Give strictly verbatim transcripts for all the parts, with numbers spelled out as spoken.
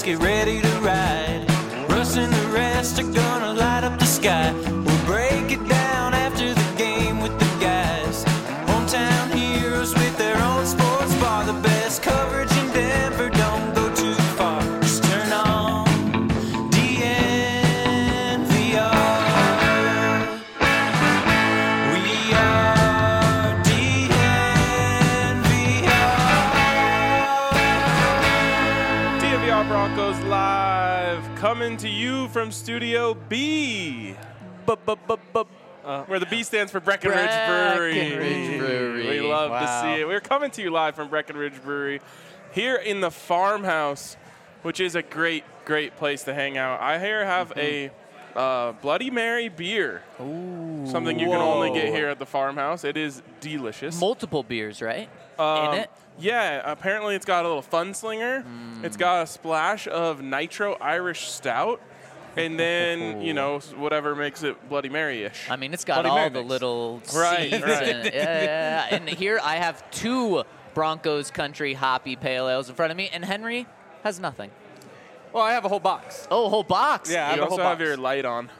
get ready to ride. Russ and the rest are gonna light up the sky. We'll break it down after the game with the guys. Hometown heroes with their own sports bar. The best coverage in Denver, don't go too far. Just turn on D N V R. We are D N V R. D N V R Broncos Live, coming to you from Studio B. Uh, where the B stands for Breckenridge Brewery. Breckenridge Brewery. We love Wow. to see it. We're coming to you live from Breckenridge Brewery here in the farmhouse, which is a great, great place to hang out. I here have mm-hmm. a uh, Bloody Mary beer. Ooh. Something you Whoa. can only get here at the farmhouse. It is delicious. Multiple beers, right? Um, in it? Yeah, apparently it's got a little fun slinger. Mm. It's got a splash of nitro Irish stout. And then, you know, whatever makes it Bloody Mary-ish. I mean, it's got Bloody all Mary the mix. little Right, seeds right. in it. Yeah, yeah, yeah. And here I have two Broncos Country Hoppy Pale Ales in front of me, and Henry has nothing. Well, I have a whole box. Oh, a whole box? Yeah, I have You a whole also box. have your light on.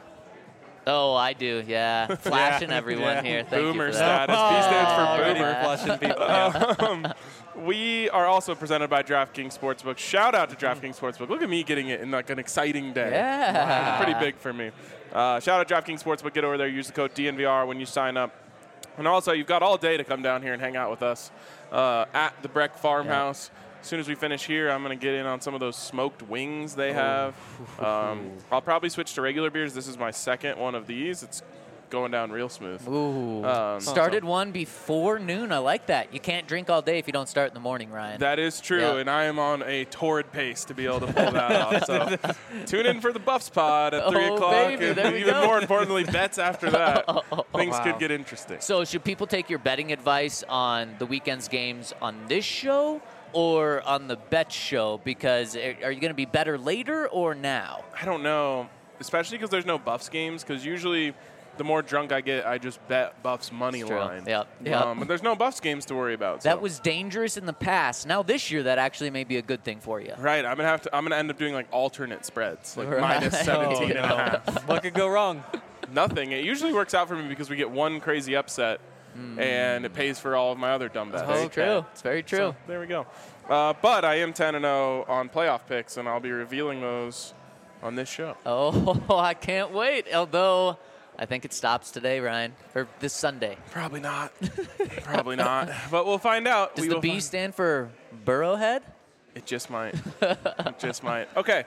Oh, I do, yeah. Flashing everyone Yeah. here. Thank Boomer you for that. status. B stands for Already boomer. flushing people. Yeah. Um, we are also presented by DraftKings Sportsbook. Shout out to DraftKings Sportsbook. Look at me getting it in like an exciting day. Yeah. Pretty big for me. Uh, shout out to DraftKings Sportsbook. Get over there. Use the code D N V R when you sign up. And also, you've got all day to come down here and hang out with us uh, at the Breck Farmhouse. As soon as we finish here, I'm going to get in on some of those smoked wings they have. Um, I'll probably switch to regular beers. This is my second one of these. It's going down real smooth. Ooh. Um, Started one before noon. I like that. You can't drink all day if you don't start in the morning, Ryan. That is true, Yeah. and I am on a torrid pace to be able to pull that off. So tune in for the Buffs pod at three Oh, o'clock, baby, and there we even go. more importantly, bets after that. Things Wow. could get interesting. So should people take your betting advice on the weekend's games on this show or on the bet show? Because are are you going to be better later or now? I don't know, especially because there's no Buffs games, because usually the more drunk I get, I just bet Buffs money It's true. line. Yep, yep. Um, but there's no Buffs games to worry about. That so. was dangerous in the past. Now this year, that actually may be a good thing for you. Right, I'm gonna have to. I'm gonna end up doing like alternate spreads, like Right. minus seventeen Oh, and a no. half. What could go wrong? Nothing. It usually works out for me because we get one crazy upset, and it pays for all of my other dumb bets. Very true. It's very true. So, there we go. Uh, but I am ten and oh on playoff picks, and I'll be revealing those on this show. Oh, I can't wait. Although I think it stops today, Ryan, or this Sunday. Probably not. Probably not. But we'll find out. Does we the will B find- stand for Burrowhead? It just might. It just might. Okay.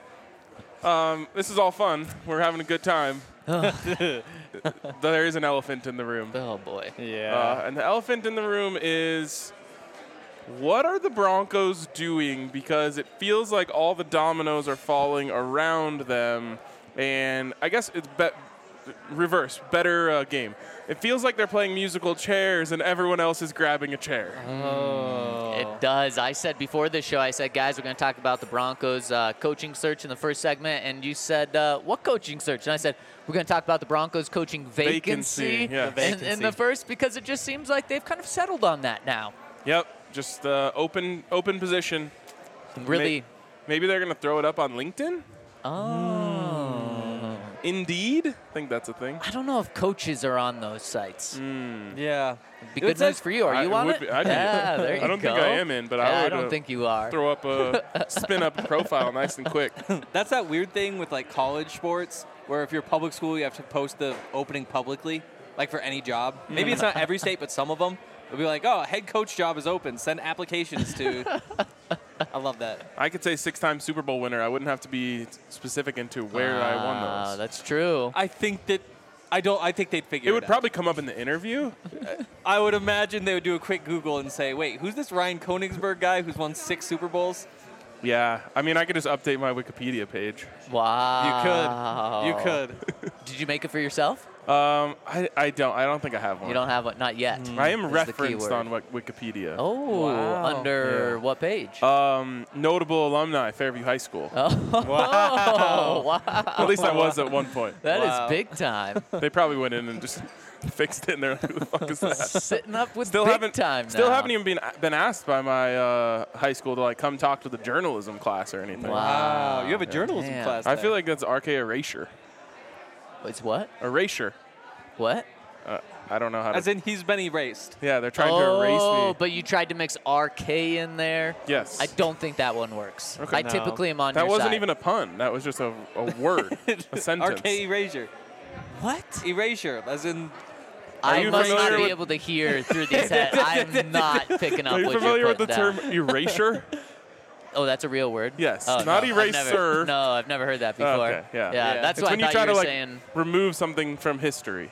Um, this is all fun. We're having a good time. There is an elephant in the room. Oh boy. Yeah. Uh, and the elephant in the room is, what are the Broncos doing? Because it feels like all the dominoes are falling around them. And I guess it's be- reverse, better uh, game. It feels like they're playing musical chairs and everyone else is grabbing a chair. oh. It does. I said before this show, I said, guys, we're going to talk about the Broncos uh, coaching search in the first segment. And you said, uh, what coaching search? And I said, we're going to talk about the Broncos coaching vacancy, Vacancy, yeah. in- In, Vacancy. the first, because it just seems like they've kind of settled on that now. Yep, just uh, open open position. Really. May- maybe they're going to throw it up on LinkedIn? Oh. Indeed? I think that's a thing. I don't know if coaches are on those sites. Yeah. Be good It's like- news for you. Are I- you it on would it? be- I'd be- yeah, there you I don't go. think I am in, but I Yeah, I would, don't uh, think you are. Throw up a spin up profile nice and quick. That's that weird thing with like college sports where if you're public school, you have to post the opening publicly, like for any job. Maybe it's not every state, but some of them. It'll be like, oh, head coach job is open. Send applications to. I love that. I could say six-time Super Bowl winner. I wouldn't have to be specific into where I won Ah, those. That's true. I think that. I don't. I think they'd figure It it, would out. probably come up in the interview. I would imagine they would do a quick Google and say, wait, who's this Ryan Koenigsberg guy who's won six Super Bowls? Yeah, I mean, I could just update my Wikipedia page. Wow. You could. You could. Did you make it for yourself? Um, I, I don't. I don't think I have one. You don't have one? Not yet. I am Is the referenced keyword. on Wik- Wikipedia. Oh, Wow. under Yeah. what page? Um, notable alumni, Fairview High School. oh, Wow. wow. At least I was at one point. That is Wow. big time. They probably went in and just fixed it, and they're like, who the fuck is that? Sitting up with Still big haven't time Still now. haven't even been been asked by my uh, high school to like come talk to the journalism class or anything. Wow. Wow, you have a journalism Damn. class. I there. feel like that's R K erasure. It's what? Erasure. What? Uh, I don't know how to. As in, he's been erased. yeah, they're trying oh, to erase me. but you tried to mix R K in there. Yes. I don't think that one works. Okay. I No. typically am on That your wasn't side. even a pun. That was just a, a word, a sentence. R K erasure. What? Erasure, as in. I you must not familiar be with- able to hear through these heads. I'm not picking up Are you what familiar you're with the putting term down. erasure? Oh, that's a real word? Yes. Oh, Not no, I've eraser. never- No, I've never heard that before. Okay, yeah. Yeah, Yeah. that's It's what when I you thought try you to were like saying. remove something from history.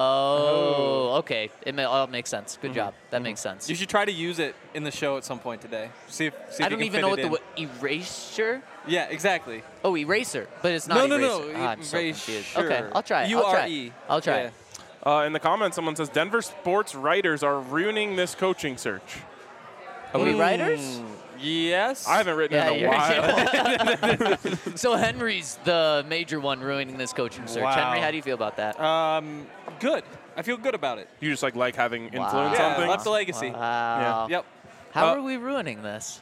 Oh, okay. It may, all makes sense. Good job. That makes sense. You should try to use it in the show at some point today. See if. See if I you don't can even fit know it what the in. wo- erasure. Yeah, exactly. Oh, eraser, but it's not No, no, eraser. no, Ah, I'm so confused. erasure. Okay, I'll try it. I'll try U R E. it. I'll try Yeah. it. Uh, in the comments, someone says Denver sports writers are ruining this coaching search. Are we Hmm. writers? Yes. I haven't written Yeah, in a you're- while. So Henry's the major one ruining this coaching search. Wow. Henry, how do you feel about that? Um, good. I feel good about it. You just like like having influence Wow. on Yeah, things. left a legacy. Wow. Yep. How Uh, are we ruining this?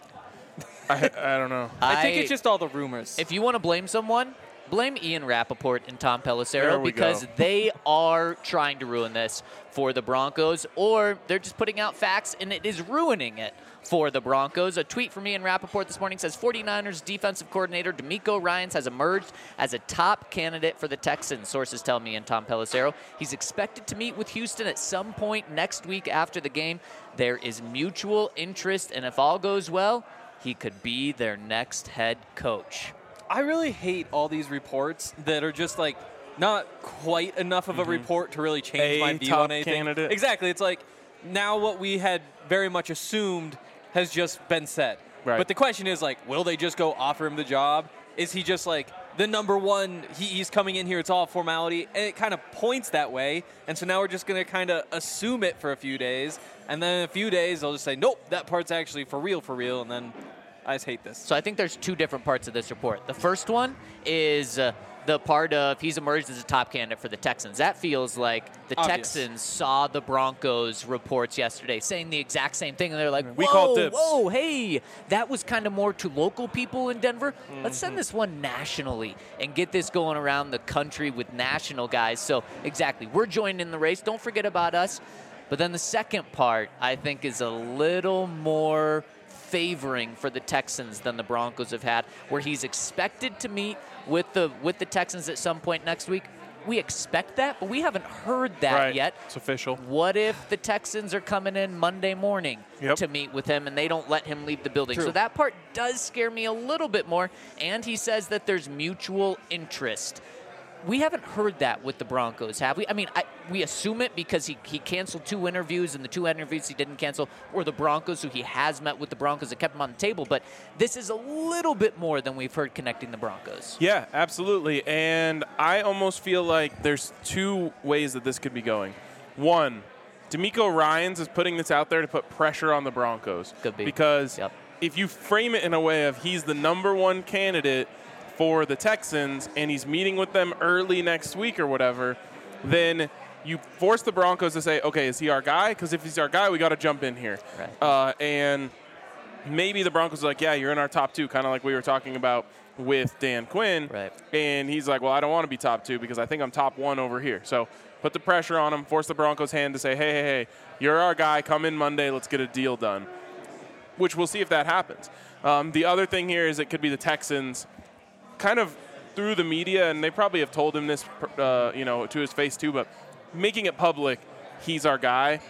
I, I don't know. I, think it's just all the rumors. If you want to blame someone, blame Ian Rappaport and Tom There Pelissero we because go. they are trying to ruin this for the Broncos, or they're just putting out facts and it is ruining it for the Broncos. A tweet from Ian Rappaport this morning says forty-niners defensive coordinator D'Amico Ryans has emerged as a top candidate for the Texans, sources tell me, and Tom Pelissero. He's expected to meet with Houston at some point next week after the game. There is mutual interest, and if all goes well, he could be their next head coach. I really hate all these reports that are just like not quite enough of a report to really change A my view top on anything. candidate. Exactly. It's like now what we had very much assumed has just been said. Right. But the question is like, will they just go offer him the job? Is he just like the number one? He, he's coming in here. It's all formality, and it kind of points that way. And so now we're just going to kind of assume it for a few days, and then in a few days they'll just say, nope, that part's actually for real, for real, and then. I just hate this. So I think there's two different parts of this report. The first one is uh, the part of he's emerged as a top candidate for the Texans. That feels like the Obvious. Texans saw the Broncos reports yesterday saying the exact same thing, and they're like, We whoa, called dibs. whoa, hey, that was kind of more to local people in Denver. Let's Mm-hmm. send this one nationally and get this going around the country with national guys. So exactly, we're joining in the race. Don't forget about us. But then the second part, I think, is a little more favoring for the Texans than the Broncos have had, where he's expected to meet with the with the Texans at some point next week. We expect that, but we haven't heard that Right. yet. It's official. What if the Texans are coming in Monday morning Yep. to meet with him and they don't let him leave the building? True. So that part does scare me a little bit more. And he says that there's mutual interest. We haven't heard that with the Broncos, have we? I mean, I, we assume it because he, he canceled two interviews, and the two interviews he didn't cancel were the Broncos, who he has met with the Broncos that kept him on the table. But this is a little bit more than we've heard connecting the Broncos. Yeah, absolutely. And I almost feel like there's two ways that this could be going. One, D'Amico Ryans is putting this out there to put pressure on the Broncos. Could be. Because Yep. if you frame it in a way of he's the number one candidate for the Texans and he's meeting with them early next week or whatever, then you force the Broncos to say, okay, is he our guy? Because if he's our guy, we got to jump in here. Right. Uh, and maybe the Broncos are like, yeah, you're in our top two, kind of like we were talking about with Dan Quinn. Right. And he's like, well, I don't want to be top two because I think I'm top one over here. So put the pressure on him, force the Broncos' hand to say, hey, hey, hey, you're our guy. Come in Monday. Let's get a deal done, which we'll see if that happens. Um, the other thing here is it could be the Texans kind of through the media, and they probably have told him this, uh, you know, to his face too, but making it public, he's our guy.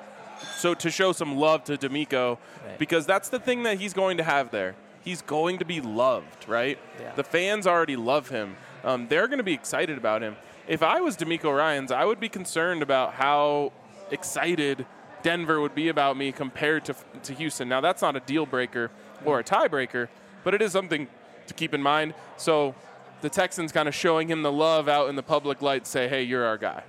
So to show some love to D'Amico, Right. because that's the thing that he's going to have there. He's going to be loved, right? Yeah. The fans already love him. Um, they're going to be excited about him. If I was D'Amico Ryans, I would be concerned about how excited Denver would be about me compared to, to Houston. Now, that's not a deal breaker or a tiebreaker, but it is something to keep in mind. So the Texans kind of showing him the love out in the public light, say, hey, you're our guy.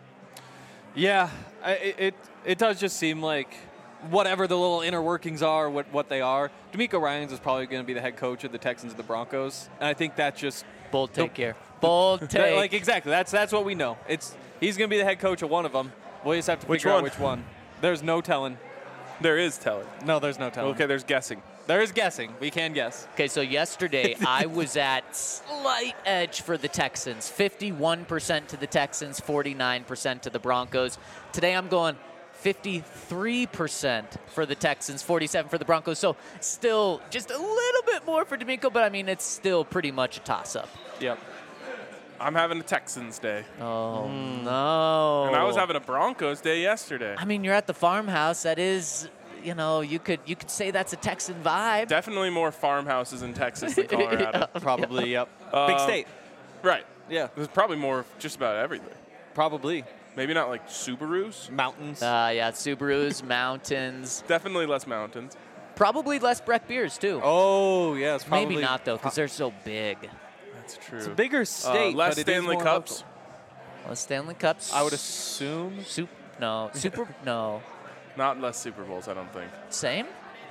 Yeah, I, it, it it does just seem like whatever the little inner workings are, what what they are. D'Amico Ryans is probably going to be the head coach of the Texans and the Broncos, and I think that's just Bold take here. Bold that- take. like exactly that's that's what we know. It's he's going to be the head coach of one of them, We'll just have to Which figure one? out which one. There's no telling. There is telling. No, there's no telling. Okay, there's guessing. There is guessing. We can guess. Okay, so yesterday I was at slight edge for the Texans. fifty-one percent to the Texans, forty-nine percent to the Broncos. Today I'm going fifty-three percent for the Texans, forty-seven for the Broncos. So still just a little bit more for D'Amico, but I mean, it's still pretty much a toss-up. Yep. I'm having a Texans day. Oh, no. And I was having a Broncos day yesterday. I mean, you're at the farmhouse. That is, you know, you could you could say that's a Texan vibe. Definitely more farmhouses in Texas than Colorado. Probably, yep. Uh, Big state. Right. Yeah. There's probably more of just about everything. Probably. Maybe not like Subarus. Mountains. Uh, yeah, Subarus, mountains. Definitely less mountains. Probably less Breck beers, too. oh, yes. Probably. Maybe not, though, because they're so big. That's true. It's a bigger state, uh, less but it is Stanley more Cups. local. Well, Stanley Cups. I would assume. Sup- no. Super. No. Not less Super Bowls, I don't think. Same?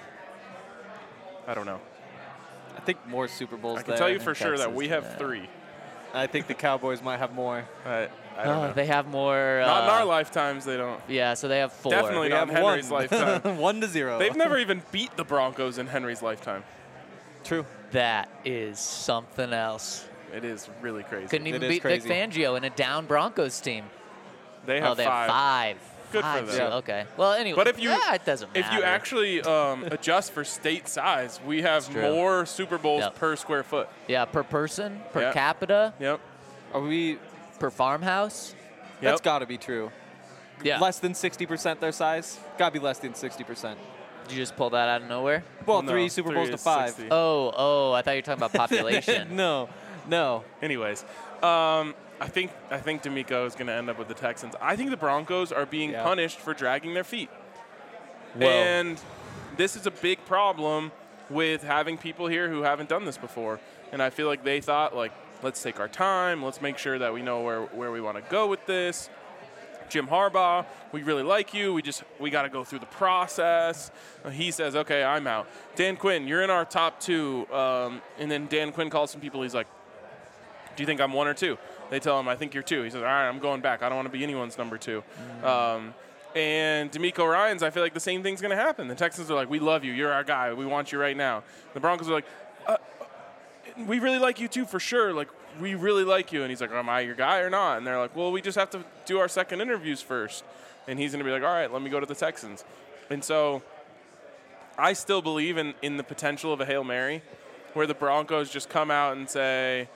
I don't know. I think more Super Bowls I can there. tell you for in sure that Texas, we have yeah. three. I think the Cowboys might have more. I, I don't Oh, know. they have more. Not in uh, our lifetimes, they don't. Yeah, so they have four. Definitely We not in have Henry's one. lifetime. one to zero. They've never even beat the Broncos in Henry's lifetime. True. That is something else. It is really crazy. Couldn't even It is beat Vic crazy. Fangio in a down Broncos team. They have oh, they five. have five. Good for five, them. so- Okay. Well, anyway. But if you yeah, it doesn't matter. if you actually um, adjust for state size, we have true. more Super Bowls Yep. per square foot. Yeah, per person, per Yeah. capita, Yep. Are we? per farmhouse. That's Yep. got to be true. Yeah. Less than sixty percent their size? Got to be less than sixty percent. Did you just pull that out of nowhere? Well, No, three Super three Bowls to is five. sixty. Oh, oh, I thought you were talking about population. no, no. Anyways, um, I think I think D'Amico is going to end up with the Texans. I think the Broncos are being Yeah. punished for dragging their feet. Whoa. And this is a big problem with having people here who haven't done this before. And I feel like they thought, like, let's take our time. Let's make sure that we know where, where we want to go with this. Jim Harbaugh, we really like you. We just we got to go through the process. Uh, he says, okay, I'm out. Dan Quinn, you're in our top two. Um, and then Dan Quinn calls some people. He's like, do you think I'm one or two? They tell him, I think you're two. He says, all right, I'm going back. I don't want to be anyone's number two. Mm-hmm. Um, and D'Amico Ryans, I feel like the same thing's going to happen. The Texans are like, we love you. You're our guy. We want you right now. The Broncos are like, uh, we really like you too, for sure. Like, we really like you. And he's like, am I your guy or not? And they're like, well, we just have to do our second interviews first. And he's going to be like, all right, let me go to the Texans. And so I still believe in, in the potential of a Hail Mary where the Broncos just come out and say,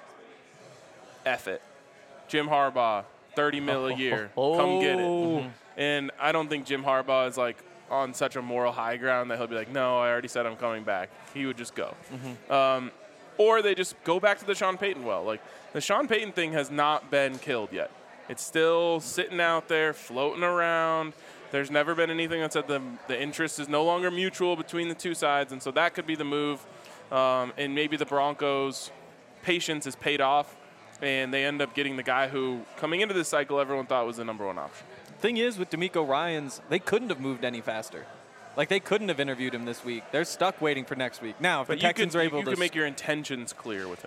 F it. Jim Harbaugh, thirty mil a year. Come get it. Oh. And I don't think Jim Harbaugh is like on such a moral high ground that he'll be like, no, I already said I'm coming back. He would just go. Mm-hmm. Um, or they just go back to the Sean Payton well. Like, the Sean Payton thing has not been killed yet. It's still sitting out there, floating around. There's never been anything that said the, the interest is no longer mutual between the two sides, and so that could be the move. Um, and maybe the Broncos' patience is paid off, and they end up getting the guy who, coming into this cycle, everyone thought was the number one option. Thing is, with D'Amico Ryans, they couldn't have moved any faster. Like, they couldn't have interviewed him this week. They're stuck waiting for next week. Now, if But the you Texans could, are you, able you to... could make your intentions clear with him.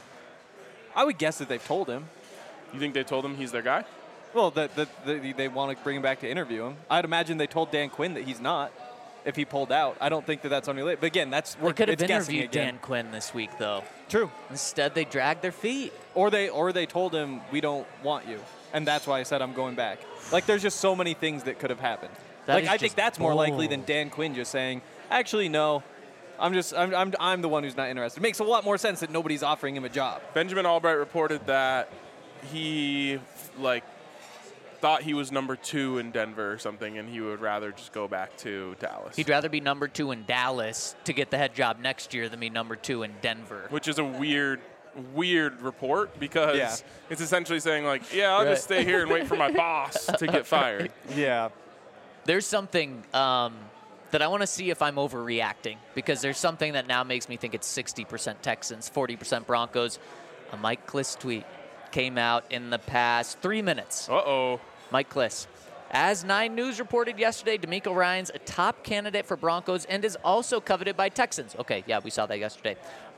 I would guess that they've told him. You think they told him he's their guy? Well, that the, the, they want to bring him back to interview him. I'd imagine they told Dan Quinn that he's not if he pulled out. I don't think that that's on your list. But again, that's They could have it's guessing interviewed again. Dan Quinn this week, though. True. Instead, they dragged their feet. Or they or they told him we don't want you, and that's why I said I'm going back. Like, there's just so many things that could have happened. That like is I think just that's more likely than bold. Dan Quinn just saying, actually no, I'm just I'm I'm I'm the one who's not interested. It makes a lot more sense that nobody's offering him a job. Benjamin Albright reported that he, like, thought he was number two in Denver or something, and he would rather just go back to Dallas. He'd rather be number two in Dallas to get the head job next year than be number two in Denver. Which is a weird, weird report because Yeah. it's essentially saying, like, yeah, I'll Right. just stay here and wait for my boss to get fired. Yeah. There's something um, that I want to see if I'm overreacting, because there's something that now makes me think it's sixty percent Texans, forty percent Broncos. A Mike Kliss tweet came out in the past three minutes. Uh-oh. Mike Kliss. As Nine News reported yesterday, D'Amico Ryans a top candidate for Broncos and is also coveted by Texans. Okay, yeah, we saw that yesterday.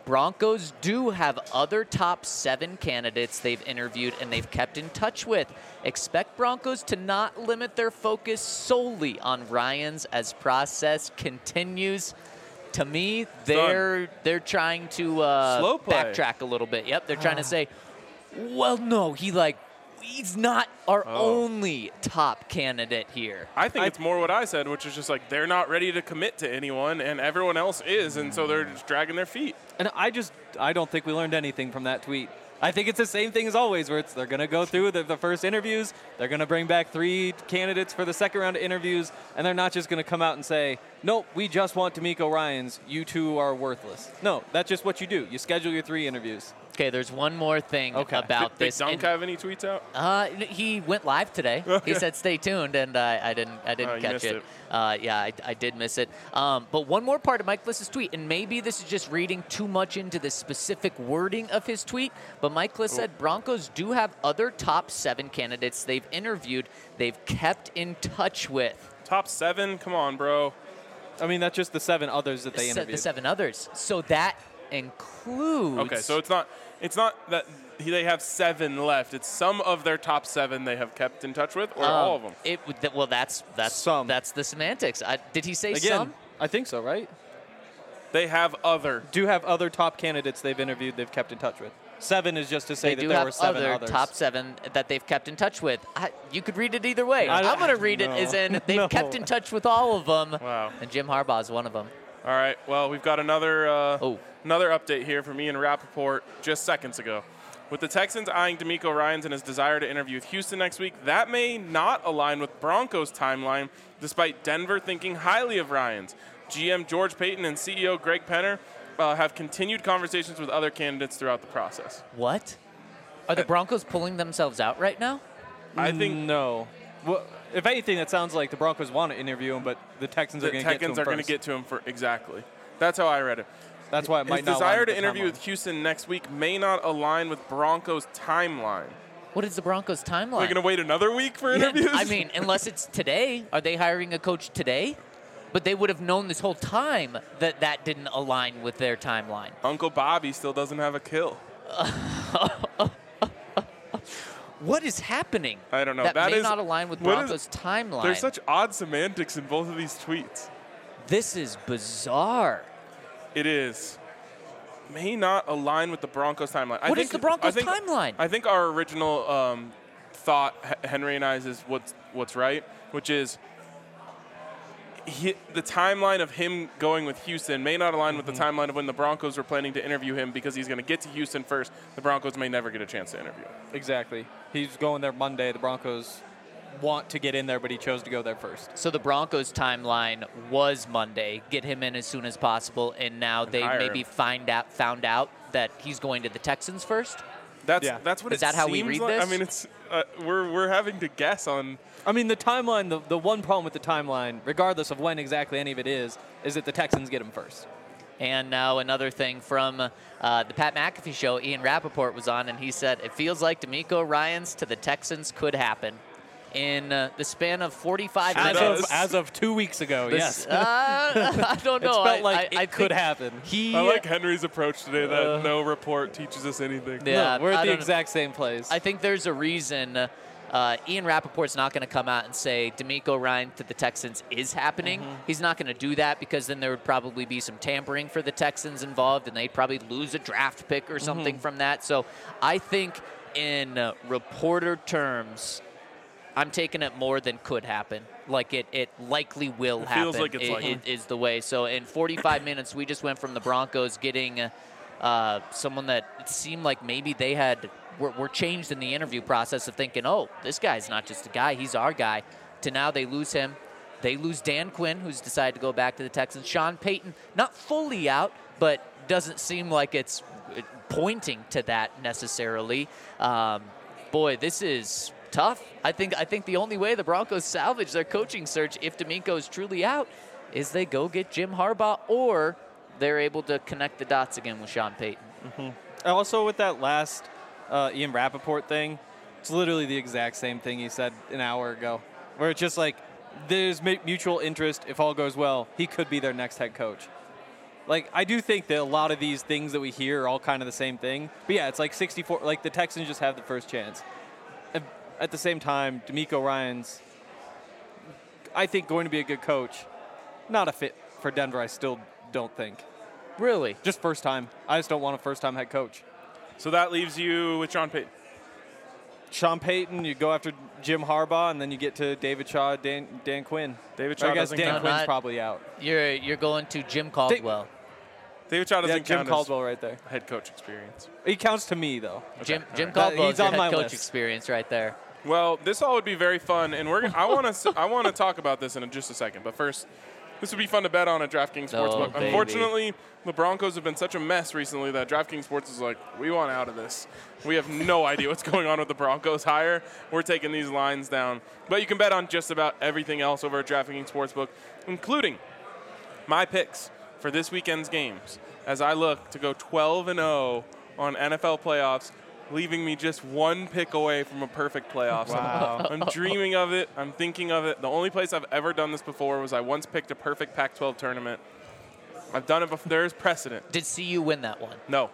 Broncos do have other top seven candidates they've interviewed and they've kept in touch with. Expect Broncos to not limit their focus solely on Ryans as process continues. To me, they're they're trying to uh, Slow play. backtrack a little bit. Yep, they're trying to say, well, no, he like he's not our Oh. only top candidate here. I think it's more what I said, which is just like they're not ready to commit to anyone, and everyone else is, and so they're just dragging their feet. And I just, I don't think we learned anything from that tweet. I think it's the same thing as always, where it's they're going to go through the, the first interviews, they're going to bring back three candidates for the second round of interviews, and they're not just going to come out and say, nope, we just want D'Amico Ryans, you two are worthless. No, that's just what you do. You schedule your three interviews. Okay, there's one more thing Okay. about Did this. Dunk and- have any tweets out? Uh, he went live today. Okay. He said, "Stay tuned," and uh, I didn't. I Oh, didn't you catch missed it. it. Uh, yeah, I, I did miss it. Um, but one more part of Mike Liss's tweet, and maybe this is just reading too much into the specific wording of his tweet. But Mike Liss said Broncos do have other top seven candidates they've interviewed, they've kept in touch with. Top seven? Come on, bro. I mean, that's just the seven others that they Se- interviewed. the seven others. So that includes. Okay, so it's not it's not that he- they have seven left. It's some of their top seven they have kept in touch with, or um, all of them. It would- th- well, that's that's Some. that's the semantics. I, did he say Again, some? I think so, right? They have other. Do have other top candidates they've interviewed they've kept in touch with. Seven is just to say They that do there have were seven other others. top seven that they've kept in touch with. I, you could read it either way. I- I'm going to read it no. as in they've No. kept in touch with all of them. Wow. And Jim Harbaugh is one of them. All right. Well, we've got another uh, Oh. another update here from Ian Rappaport just seconds ago. With the Texans eyeing D'Amico Ryans and his desire to interview with Houston next week, that may not align with Broncos' timeline, despite Denver thinking highly of Ryans. G M George Payton and C E O Greg Penner uh, have continued conversations with other candidates throughout the process. What? Are the Broncos pulling themselves out right now? I think no. Well, if anything, that sounds like the Broncos want to interview him, but the Texans the are going to get to him Texans are going to first. get to him for exactly. That's how I read it. That's why it might His not desire align to with the interview timeline. with Houston next week may not align with Broncos' timeline. What is the Broncos' timeline? They're going to wait another week for Yeah, interviews? I mean, unless it's today. Are they hiring a coach today? But they would have known this whole time that that didn't align with their timeline. Uncle Bobby still doesn't have a kill. What is happening? I don't know. That, That may is- not align with what Broncos' is- timeline. There's such odd semantics in both of these tweets. This is bizarre. It is. May not align with the Broncos timeline. I What is think, the Broncos I think, timeline? I think our original um, thought, H- Henry and I's, is what's, what's right, which is he, the timeline of him going with Houston may not align with the timeline of when the Broncos were planning to interview him because he's going to get to Houston first. The Broncos may never get a chance to interview him. Exactly. He's going there Monday. The Broncos want to get in there, but he chose to go there first. So the Broncos' timeline was Monday, get him in as soon as possible, and now they hire maybe him. find out found out that he's going to the Texans first. That's Yeah. that's what Is it that how we seems read like. this? I mean, it's uh, we're we're having to guess on. I mean, the timeline, the, the one problem with the timeline, regardless of when exactly any of it is, is that the Texans get him first. And now another thing from uh, the Pat McAfee show, Ian Rappaport was on, and he said, it feels like D'Amico Ryans to the Texans could happen. In uh, the span of forty-five As As minutes. of- of, as of two weeks ago, This- yes. uh, I don't It's know. felt I, like I, it I could think happen. He, I like Henry's approach today that Uh, no report teaches us anything. Yeah, No, we're I at the don't- exact same place. I think there's a reason uh, Ian Rappaport's not going to come out and say D'Amico Ryans to the Texans is happening. Mm-hmm. He's not going to do that because then there would probably be some tampering for the Texans involved, and they'd probably lose a draft pick or something Mm-hmm. from that. So I think in uh, reporter terms, I'm taking it more than could happen. Like it, it likely will It happen. feels like it's i- likely. i- is the way. So in forty-five minutes, we just went from the Broncos getting uh, someone that it seemed like maybe they had were, were changed in the interview process of thinking, oh, this guy's not just a guy, he's our guy, to now they lose him. They lose Dan Quinn, who's decided to go back to the Texans. Sean Payton, not fully out, but doesn't seem like it's pointing to that necessarily. Um, boy, this is tough. I think I think the only way the Broncos salvage their coaching search, if D'Amico is truly out, is they go get Jim Harbaugh, or they're able to connect the dots again with Sean Payton. Also, with that last uh, Ian Rappaport thing, it's literally the exact same thing he said an hour ago, where it's just like there's mu- mutual interest. If all goes well, he could be their next head coach. Like, I do think that a lot of these things that we hear are all kind of the same thing. But yeah, it's like sixty-four. Like, the Texans just have the first chance. At, at the same time, D'Amico Ryans, I think, going to be a good coach. Not a fit for Denver, I still don't think. Really? Just first time. I just don't want a first-time head coach. So that leaves you with Sean Payton. Sean Payton, you go after Jim Harbaugh, and then you get to David Shaw, Dan, Dan Quinn. David I Shaw guess doesn't Dan count. No, Quinn's not- probably out. You're you're going to Jim Caldwell. David Shaw doesn't Yeah, Jim count Caldwell right there. as head coach experience. He counts to me, though. Jim Jim right. Caldwell He's is your on head my coach list. experience right there. Well, this all would be very fun, and we're gonna, I want to I want to talk about this in just a second. But first, this would be fun to bet on at DraftKings Oh, Sportsbook. baby. Unfortunately, the Broncos have been such a mess recently that DraftKings Sports is like, we want out of this. We have no idea what's going on with the Broncos hire. We're taking these lines down. But you can bet on just about everything else over at DraftKings Sportsbook, including my picks for this weekend's games as I look to go twelve and oh on N F L playoffs, leaving me just one pick away from a perfect playoffs. Wow. I'm dreaming of it. I'm thinking of it. The only place I've ever done this before was I once picked a perfect Pac twelve tournament. I've done it before. There's precedent. Did C U win that one? No.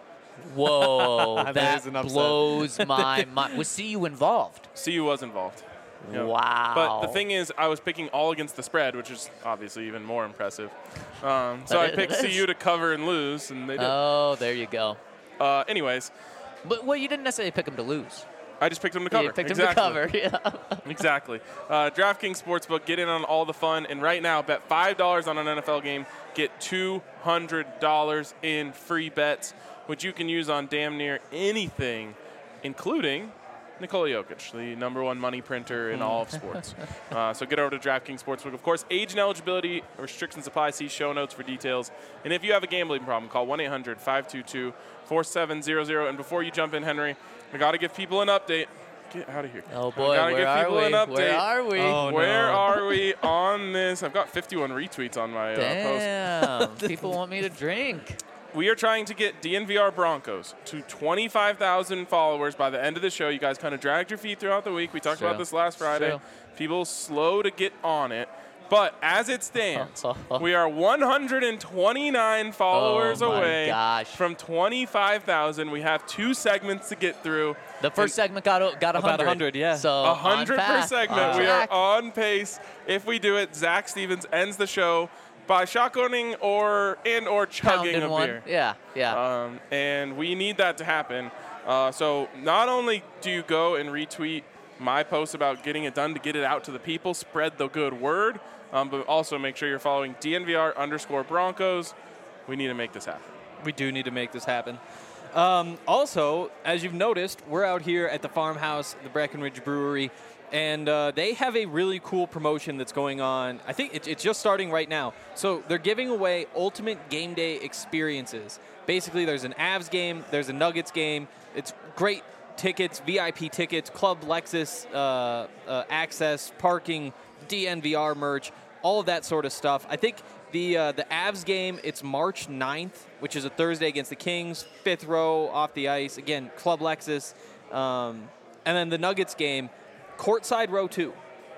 Whoa, That that is an upset. blows my mind. Was C U involved? C U was involved. Yeah. Wow. But the thing is, I was picking all against the spread, which is obviously even more impressive. Um, so I That picked is- C U to cover and lose, and they did. Oh, there you go. Uh, anyways, But well, you didn't necessarily pick him to lose. I just picked them to cover. You picked exactly. him to cover. Yeah. Exactly. Uh, DraftKings Sportsbook, get in on all the fun. And right now, bet five dollars on an N F L game, get two hundred dollars in free bets, which you can use on damn near anything, including Nikola Jokic, the number one money printer in all of sports. Uh, so get over to DraftKings Sportsbook. Of course, age and eligibility restrictions apply. See show notes for details. And if you have a gambling problem, call one eight hundred five two two four seven zero zero. And before you jump in, Henry, I got to give people an update. Get out of here. Oh I boy, gotta where give are people we? an update. Where are we? Oh, Where no. are we on this? I've got fifty-one retweets on my uh, post. Damn, people want me to drink. We are trying to get D N V R Broncos to twenty-five thousand followers by the end of the show. You guys kind of dragged your feet throughout the week. We talked True. about this last Friday. True. People slow to get on it. But as it stands, we are one hundred twenty-nine followers Oh, my away gosh. from twenty-five thousand. We have two segments to get through. The first segment got o- got one hundred. About one hundred, yeah. So A hundred per on path, segment. on We are track. on pace. If we do it, Zach Stevens ends the show by shotgunning or and or chugging Pounding a one. beer. Yeah, yeah. Um, and we need that to happen. Uh, so not only do you go and retweet my post about getting it done to get it out to the people, spread the good word, um, but also make sure you're following D N V R underscore Broncos. We need to make this happen. We do need to make this happen. Um, also, as you've noticed, we're out here at the farmhouse, the Breckenridge Brewery, and uh, they have a really cool promotion that's going on. I think it, it's just starting right now. So they're giving away ultimate game day experiences. Basically, there's an Avs game, there's a Nuggets game. It's great tickets, V I P tickets, Club Lexus uh, uh, access, parking, D N V R merch, all of that sort of stuff. I think the uh, the Avs game, it's March ninth, which is a Thursday against the Kings, fifth row off the ice. Again, Club Lexus. Um, and then the Nuggets game, courtside row two.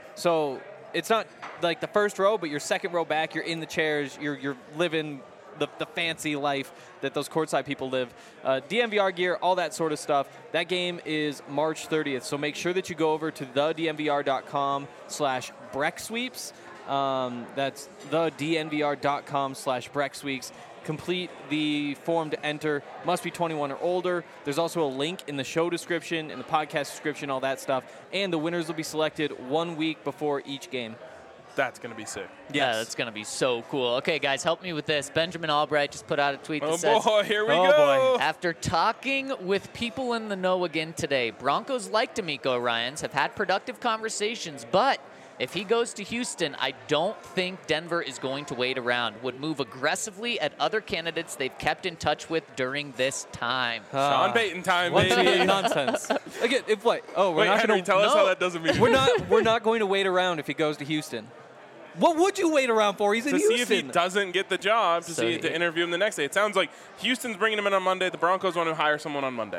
So it's not like the first row, but your second row back, you're in the chairs, you're, you're living the, the fancy life that those courtside people live. Uh, D N V R gear, all that sort of stuff. That game is March thirtieth. So make sure that you go over to the D N V R dot com slash Breck Sweeps. Um, that's the D N V R dot com slash Breck Sweeps. Complete the form to enter. Must be twenty-one or older. There's also a link in the show description, in the podcast description, all that stuff. And the winners will be selected one week before each game. That's going to be sick. Yeah, that's going to be so cool. Okay, guys, help me with this. Benjamin Albright just put out a tweet that Oh, says, boy, here we Oh, go. after talking with people in the know again today, Broncos like D'Amico Ryans have had productive conversations, but if he goes to Houston, I don't think Denver is going to wait around. Would move aggressively at other candidates they've kept in touch with during this time. Sean Payton time, Once baby. again, nonsense. Again, if what? Oh, we're Wait, not Henry, going to tell us how no. that doesn't mean. We're not. We're not going to wait around if he goes to Houston. What would you wait around for? He's in to Houston. see if he doesn't get the job, to So see he- to interview him the next day. It sounds like Houston's bringing him in on Monday. The Broncos want to hire someone on Monday.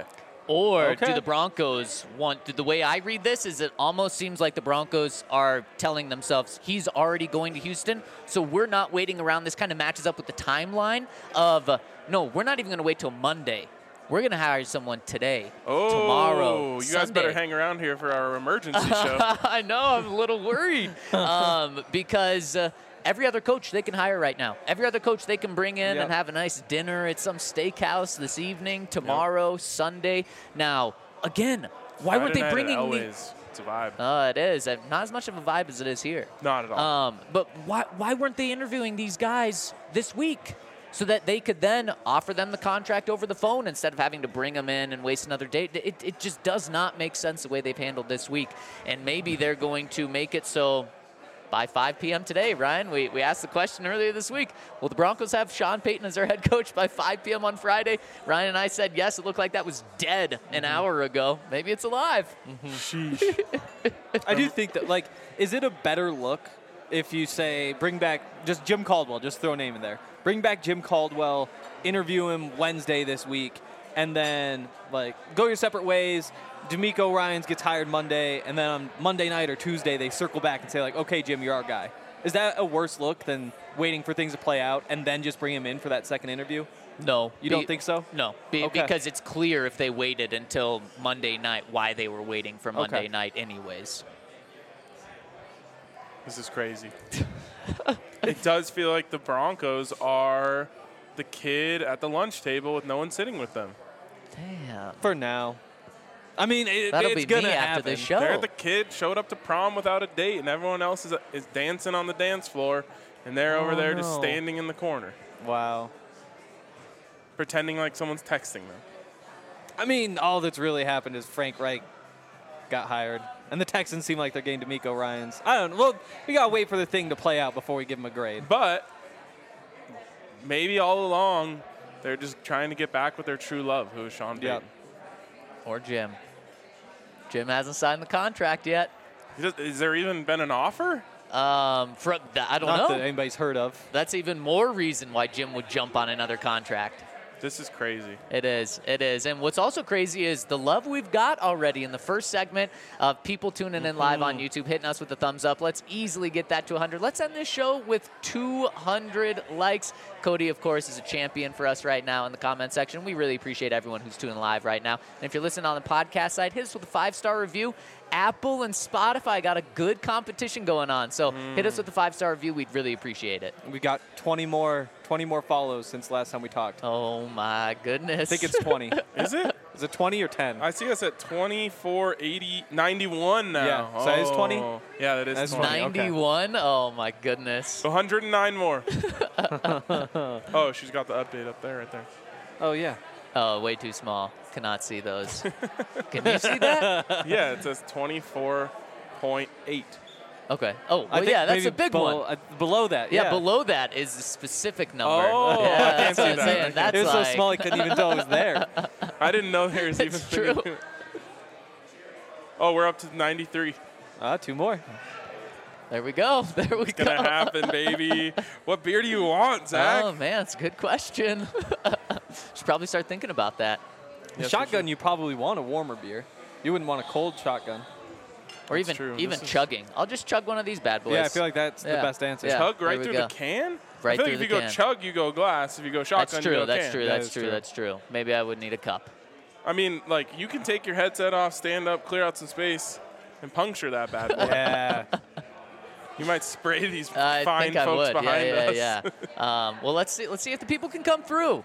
Or Okay. do the Broncos want, the way I read this is it almost seems like the Broncos are telling themselves he's already going to Houston, so we're not waiting around. This kind of matches up with the timeline of, uh, no, we're not even going to wait till Monday. We're going to hire someone today, Oh, tomorrow, you guys better Sunday. hang around here for our emergency show. I know, I'm a little worried um, because uh, every other coach they can hire right now. Every other coach they can bring in Yep. and have a nice dinner at some steakhouse this evening, tomorrow, Sunday. Now, again, why weren't Friday they night at bringing the? Elway's. It's a vibe. Uh, it is. Uh, Not as much of a vibe as it is here. Not at all. Um, but why why weren't they interviewing these guys this week so that they could then offer them the contract over the phone instead of having to bring them in and waste another day? It, it just does not make sense the way they've handled this week. And maybe they're going to make it so by five p.m. today, Ryan, we, we asked the question earlier this week, will the Broncos have Sean Payton as their head coach by five p.m. on Friday? Ryan and I said yes. It looked like that was dead an Mm-hmm. hour ago. Maybe it's alive. Sheesh. I do think that, like, is it a better look if you say bring back just Jim Caldwell, just throw a name in there, bring back Jim Caldwell, interview him Wednesday this week, and then, like, go your separate ways. D'Amico Ryans gets hired Monday, and then on Monday night or Tuesday they circle back and say, like, okay, Jim, you're our guy. Is that a worse look than waiting for things to play out and then just bring him in for that second interview? No. You Be- don't think so? No, be, Okay. because it's clear if they waited until Monday night why they were waiting for Monday Okay. night anyways. This is crazy. It does feel like the Broncos are the kid at the lunch table with no one sitting with them. Damn. For now. I mean, it, That'll it's be gonna me happen. after this show. They're the kid showed up to prom without a date, and everyone else is, is dancing on the dance floor, and they're over Oh, there just no. standing in the corner, Wow. pretending like someone's texting them. I mean, all that's really happened is Frank Reich got hired, and the Texans seem like they're getting D'Amico Ryans. I don't know. Well, we gotta wait for the thing to play out before we give him a grade. But maybe all along, they're just trying to get back with their true love, who is Sean Payton. Yep. Or Jim. Jim hasn't signed the contract yet. Is is there even been an offer? Um, from I don't Not know. that anybody's heard of. That's even more reason why Jim would jump on another contract. This is crazy. It is. It is. And what's also crazy is the love we've got already in the first segment of people tuning in live on YouTube, hitting us with the thumbs up. Let's easily get that to one hundred. Let's end this show with two hundred likes. Cody, of course, is a champion for us right now in the comment section. We really appreciate everyone who's tuning live right now. And if you're listening on the podcast side, hit us with a five-star review. Apple and Spotify got a good competition going on. So hit us with a five-star review. We'd really appreciate it. We got twenty more, twenty more follows since last time we talked. Oh, my goodness. I think it's twenty. Is it? Is it twenty or ten? I see us at twenty-four eighty, ninety-one now. Yeah, so that is twenty? Oh, Yeah, that is That's twenty. funny. Okay. ninety-one? Oh, my goodness. one hundred nine more. Oh, she's got the update up there, right there. Oh yeah. Oh, way too small. Cannot see those. Can you see that? Yeah, it says twenty-four point eight. Okay. Oh, I well, think yeah, that's maybe a big below, one. uh, below that. Yeah, Yeah, below that is the specific number. Oh, yeah, I that's can't what see I'm that. saying. Okay. That's It was like, so small I couldn't even tell it was there. I didn't know there was even. It's true. Oh, we're up to ninety-three. Ah, two more. There we go. There we It's go. gonna happen, baby. What beer do you want, Zach? Oh, man, it's a good question. Should probably start thinking about that. Yes, we Shotgun, should. you probably want a warmer beer. You wouldn't want a cold shotgun. Or That's even true. even This is- chugging. I'll just chug one of these bad boys. Yeah, I feel like that's Yeah. the best answer. Yeah. Chug there right we through go. the can. Right I feel through like the if you can. go chug, you go glass. If you go shotgun, That's you true. go That's can. true. That That's is true. true. That's true. Maybe I would need a cup. I mean, like you can take your headset off, stand up, clear out some space, and puncture that bad boy. Yeah. You might spray these I fine think I folks would. behind yeah, us. yeah, yeah. um, well, let's see. Let's see if the people can come through.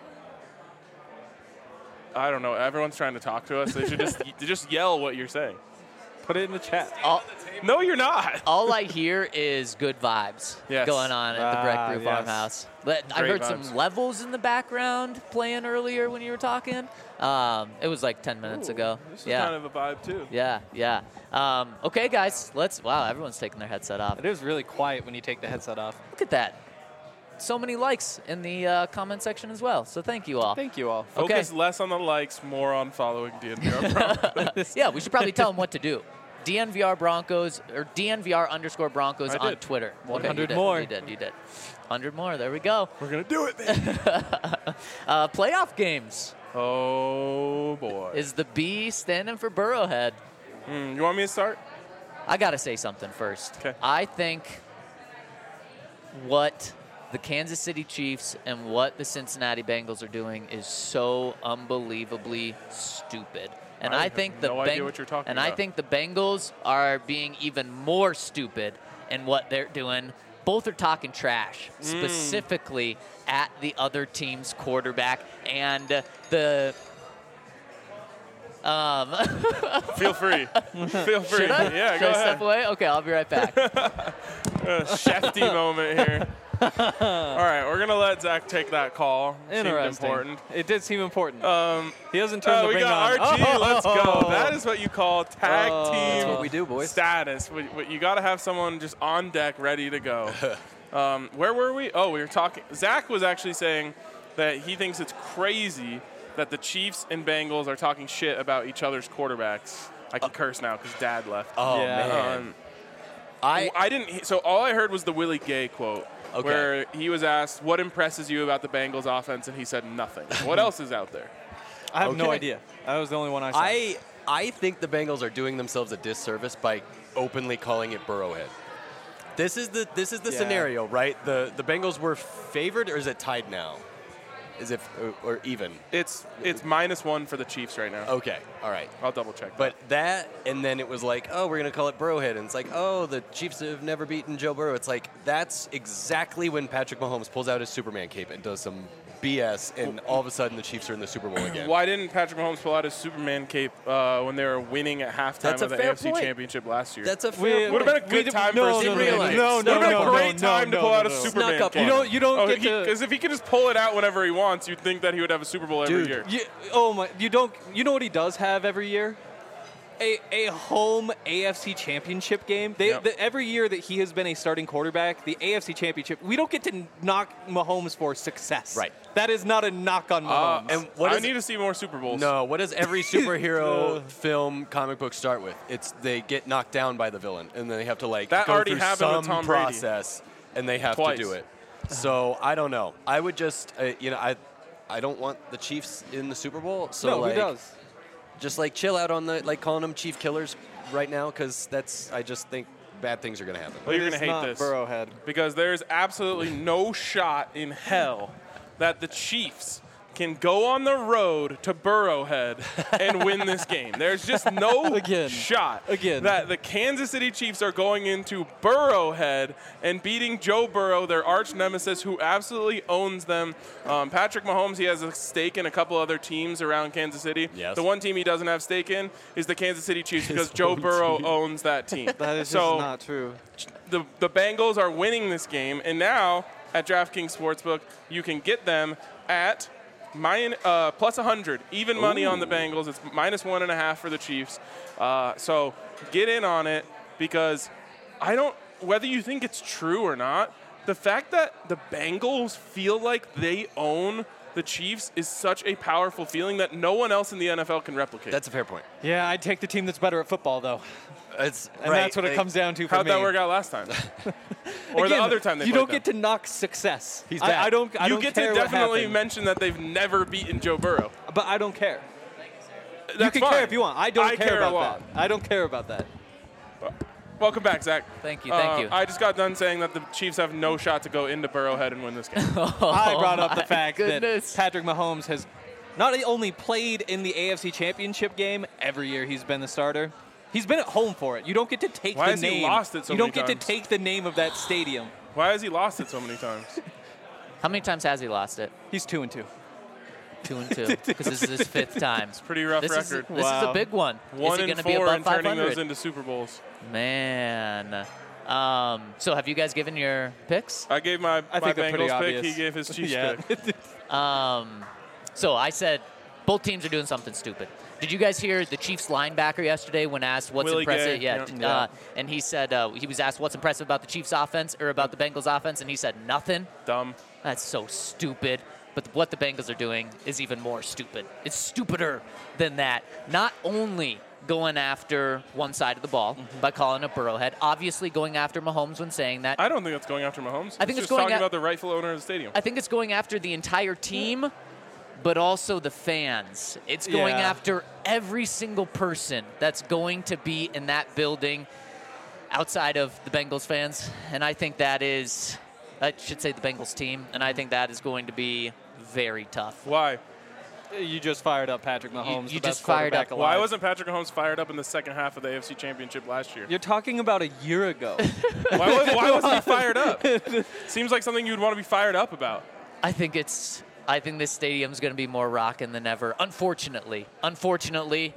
I don't know. Everyone's trying to talk to us. They should just just yell what you're saying. Put it in the chat. All, No, you're not. all I hear is good vibes Yes. going on at the Breck Ah, Brew yes. Farmhouse. But I Great heard vibes. some levels in the background playing earlier when you were talking. Um, it was like ten minutes Ooh, ago. This is yeah. kind of a vibe too. Yeah, yeah. Um, okay, guys, let's. Wow, everyone's taking their headset off. It is really quiet when you take the headset off. Look at that. So many likes in the uh, comment section as well. So thank you all. Thank you all. Okay. Focus less on the likes, more on following D N V R Broncos. Yeah, we should probably tell them what to do. D N V R Broncos or D N V R underscore Broncos I on did. Twitter. one Okay, you hundred did, more. You did. You did. one hundred more. There we go. We're gonna do it, baby. Uh, playoff games. Oh boy. is the B standing for Burrowhead. Mm, you want me to start? I got to say something first. Okay. I think what the Kansas City Chiefs and what the Cincinnati Bengals are doing is so unbelievably stupid. And I I, have think the no idea what you're talking and I about. think the Bengals are being even more stupid in what they're doing. Both are talking trash, Mm. specifically at the other team's quarterback and uh, the Um, Feel free. Feel free. should I? Yeah, Should go I ahead. step away? Okay, I'll be right back. A Shefty moment here. All right, we're gonna let Zach take that call. Seemed Interesting. important. It did seem important. Um, he hasn't turned uh, the we ring got on. R G. Oh! Let's go. That is what you call tag Oh. team That's what we do, boys. status. We- we- You got to have someone just on deck, ready to go. um, where were we? Oh, we were talking. Zach was actually saying that he thinks it's crazy that the Chiefs and Bengals are talking shit about each other's quarterbacks. I can curse now because Dad left. Oh, Yeah. man. Um, I, I didn't. So all I heard was the Willie Gay quote, Okay. where he was asked, "What impresses you about the Bengals offense?" and he said nothing. What else is out there? I have no Okay. idea. That was the only one I saw. I, I think the Bengals are doing themselves a disservice by openly calling it Burrowhead. This is the this is the Yeah. scenario, right? The the Bengals were favored, or is it tied now? Is it or, or even? It's it's minus one for the Chiefs right now. Okay, all right. I'll double check. But that, and then it was like, oh, we're going to call it Burrowhead. And it's like, oh, the Chiefs have never beaten Joe Burrow. It's like, that's exactly when Patrick Mahomes pulls out his Superman cape and does some B S, and all of a sudden the Chiefs are in the Super Bowl again. why didn't Patrick Mahomes pull out his Superman cape uh, when they were winning at halftime That's a of the fair A F C point. Championship last year? That's a We- fair would have point. been a good We- time no, for a no, Superman no, cape. no, Would have been no, a no, great no, time no, to pull no, out a no. Superman Snuck up cape. on You don't. You don't get to. Because if he could just pull it out whenever he wants, you'd think that he would have a Super Bowl every Dude. year. You, oh my! You don't. You know what he does have every year? A, a home A F C Championship game. They, Yep. the, every year that he has been a starting quarterback, the A F C Championship, we don't get to knock Mahomes for success. Right. That is not a knock on Uh, Mahomes. and what I is- need to see more Super Bowls. No, what does every superhero film comic book start with? It's they get knocked down by the villain, and then they have to like That go already through happened with some Tom Brady. process, and they have Twice. to do it. So I don't know. I would just, uh, you know, I, I don't want the Chiefs in the Super Bowl. So no, like, who does? just like chill out on the like calling them Chief Killers right now, because that's I just think bad things are gonna happen. Well, you're It gonna is hate not this. Burrowhead. Because there's absolutely no shot in hell that the Chiefs can go on the road to Burrowhead and win this game. There's just no Again. shot Again. that the Kansas City Chiefs are going into Burrowhead and beating Joe Burrow, their arch nemesis, who absolutely owns them. Um, Patrick Mahomes, he has a stake in a couple other teams around Kansas City. Yes. The one team he doesn't have stake in is the Kansas City Chiefs because Joe own Burrow team. owns that team. That is so just not true. the, the Bengals are winning this game, and now at DraftKings Sportsbook, you can get them at min, uh, plus one hundred. Even money on the Bengals. It's minus one and a half for the Chiefs. Uh, so get in on it because I don't, whether you think it's true or not, the fact that the Bengals feel like they own the Chiefs is such a powerful feeling that no one else in the N F L can replicate. That's a fair point. Yeah, I'd take the team that's better at football, though. It's And right, that's what it like, comes down to for How'd me. that work out last time? or Again, the other time they you played don't them? get to knock success. He's I, back. I don't. I you don't get care to what definitely happened, mention that they've never beaten Joe Burrow. but I don't care. That's you can fine. care if you want. I don't I care, care a about lot. that. I don't care about that. Welcome back, Zach. Thank you, thank Uh, you. I just got done saying that the Chiefs have no shot to go into Burrowhead and win this game. I brought up the my fact goodness. that Patrick Mahomes has not only played in the A F C Championship game every year he's been the starter. He's been at home for it. You don't get to take Why the has he name. lost it so you don't many get times? to take the name of that stadium. Why has he lost it so many times? How many times has he lost it? He's two and two. Two and two, because this is his fifth time. Pretty rough This is, record. this is a Wow. big one. One is he and going to be four above and turning five hundred? those into Super Bowls. Man. Um, so have you guys given your picks? I gave my, I my think they're pretty Bengals pick. obvious. He gave his Chiefs Yeah. pick. Um, so I said both teams are doing something stupid. Did you guys hear the Chiefs linebacker yesterday when asked what's Willie impressive? Gay, Yeah, yeah. d- Yeah. Uh, and he said uh, he was asked what's impressive about the Chiefs offense or about the Bengals offense, and he said nothing. Dumb. That's so stupid. But what the Bengals are doing is even more stupid. It's stupider than that. Not only going after one side of the ball Mm-hmm. by calling it Burrowhead, obviously going after Mahomes when saying that. I don't think it's going after Mahomes. I think it's just going talking at- about the rightful owner of the stadium. I think it's going after the entire team, but also the fans. It's going Yeah. after every single person that's going to be in that building outside of the Bengals fans. And I think that is, I should say the Bengals team, and I think that is going to be very tough. Why? You just fired up Patrick Mahomes. you the best just fired quarterback up- Why alive. wasn't Patrick Mahomes fired up in the second half of the A F C Championship last year? You're talking about a year ago. Why, was, why wasn't he fired up? Seems like something you'd want to be fired up about. I think it's. I think this stadium's going to be more rocking than ever. Unfortunately, unfortunately,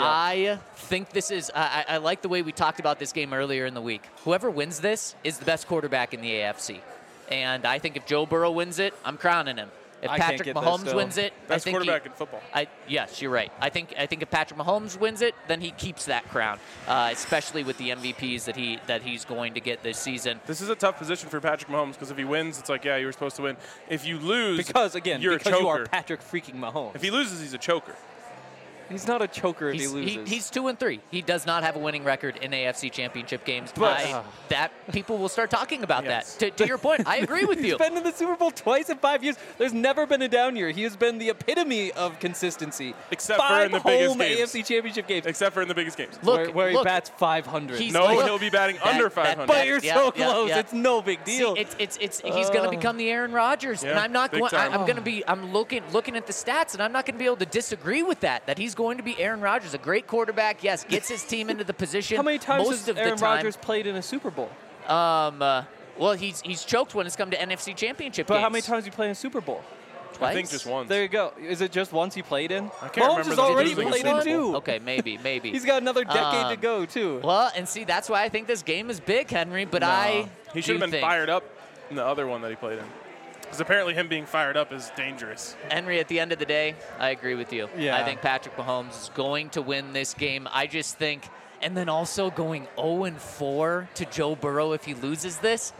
I think this is. I, I I like the way we talked about this game earlier in the week. Whoever wins this is the best quarterback in the A F C, and I think if Joe Burrow wins it, I'm crowning him. If I can't Patrick get this, Mahomes though. wins it, Best I think quarterback he, in football. I, yes, you're right. I think I think if Patrick Mahomes wins it, then he keeps that crown, uh, especially with the M V Ps that he that he's going to get this season. This is a tough position for Patrick Mahomes because if he wins, it's like, yeah, you were supposed to win. If you lose, Because, again, you're because a choker. you are Patrick freaking Mahomes. If he loses, he's a choker. He's not a choker if He's, he he, loses. he's two and three. He does not have a winning record in A F C Championship games. But- I, that people will start talking about Yes. that. To, to your point, I agree with you. He's been in the Super Bowl twice in five years. There's never been a down year. He has been the epitome of consistency. Except for Five in the biggest home games. A F C Championship games. Except for in the biggest games. Look, where, where look, he bats five hundred. he's No, like- he'll be batting That- under that- five hundred. But that- you're yeah, so yeah, close. yeah. It's no big See, deal. it's it's it's he's going to Uh. become the Aaron Rodgers, and Yeah, I'm not big going. I, time. I'm going to be. I'm looking looking at the stats, and I'm not going to be able to disagree with that. That he's going to be Aaron Rodgers, a great quarterback. Yes, gets his team into the position. How many times most has of Aaron the time. Rodgers played in a Super Bowl? Um, uh, well, he's he's choked when it's come to N F C Championship But games. how many times did he play in a Super Bowl? Twice? I think just once. There you go. Is it just once he played in? I can't Mahomes remember has the already losing played Super in Bowl. two. Okay, maybe, maybe. He's got another decade to Um, go too. Well, and see, that's why I think this game is big, Henry. But I He do should have been think, fired up in the other one that he played in. Because apparently him being fired up is dangerous. Henry, at the end of the day, I agree with you. Yeah. I think Patrick Mahomes is going to win this game. I just think, and then also going oh and four to Joe Burrow if he loses this.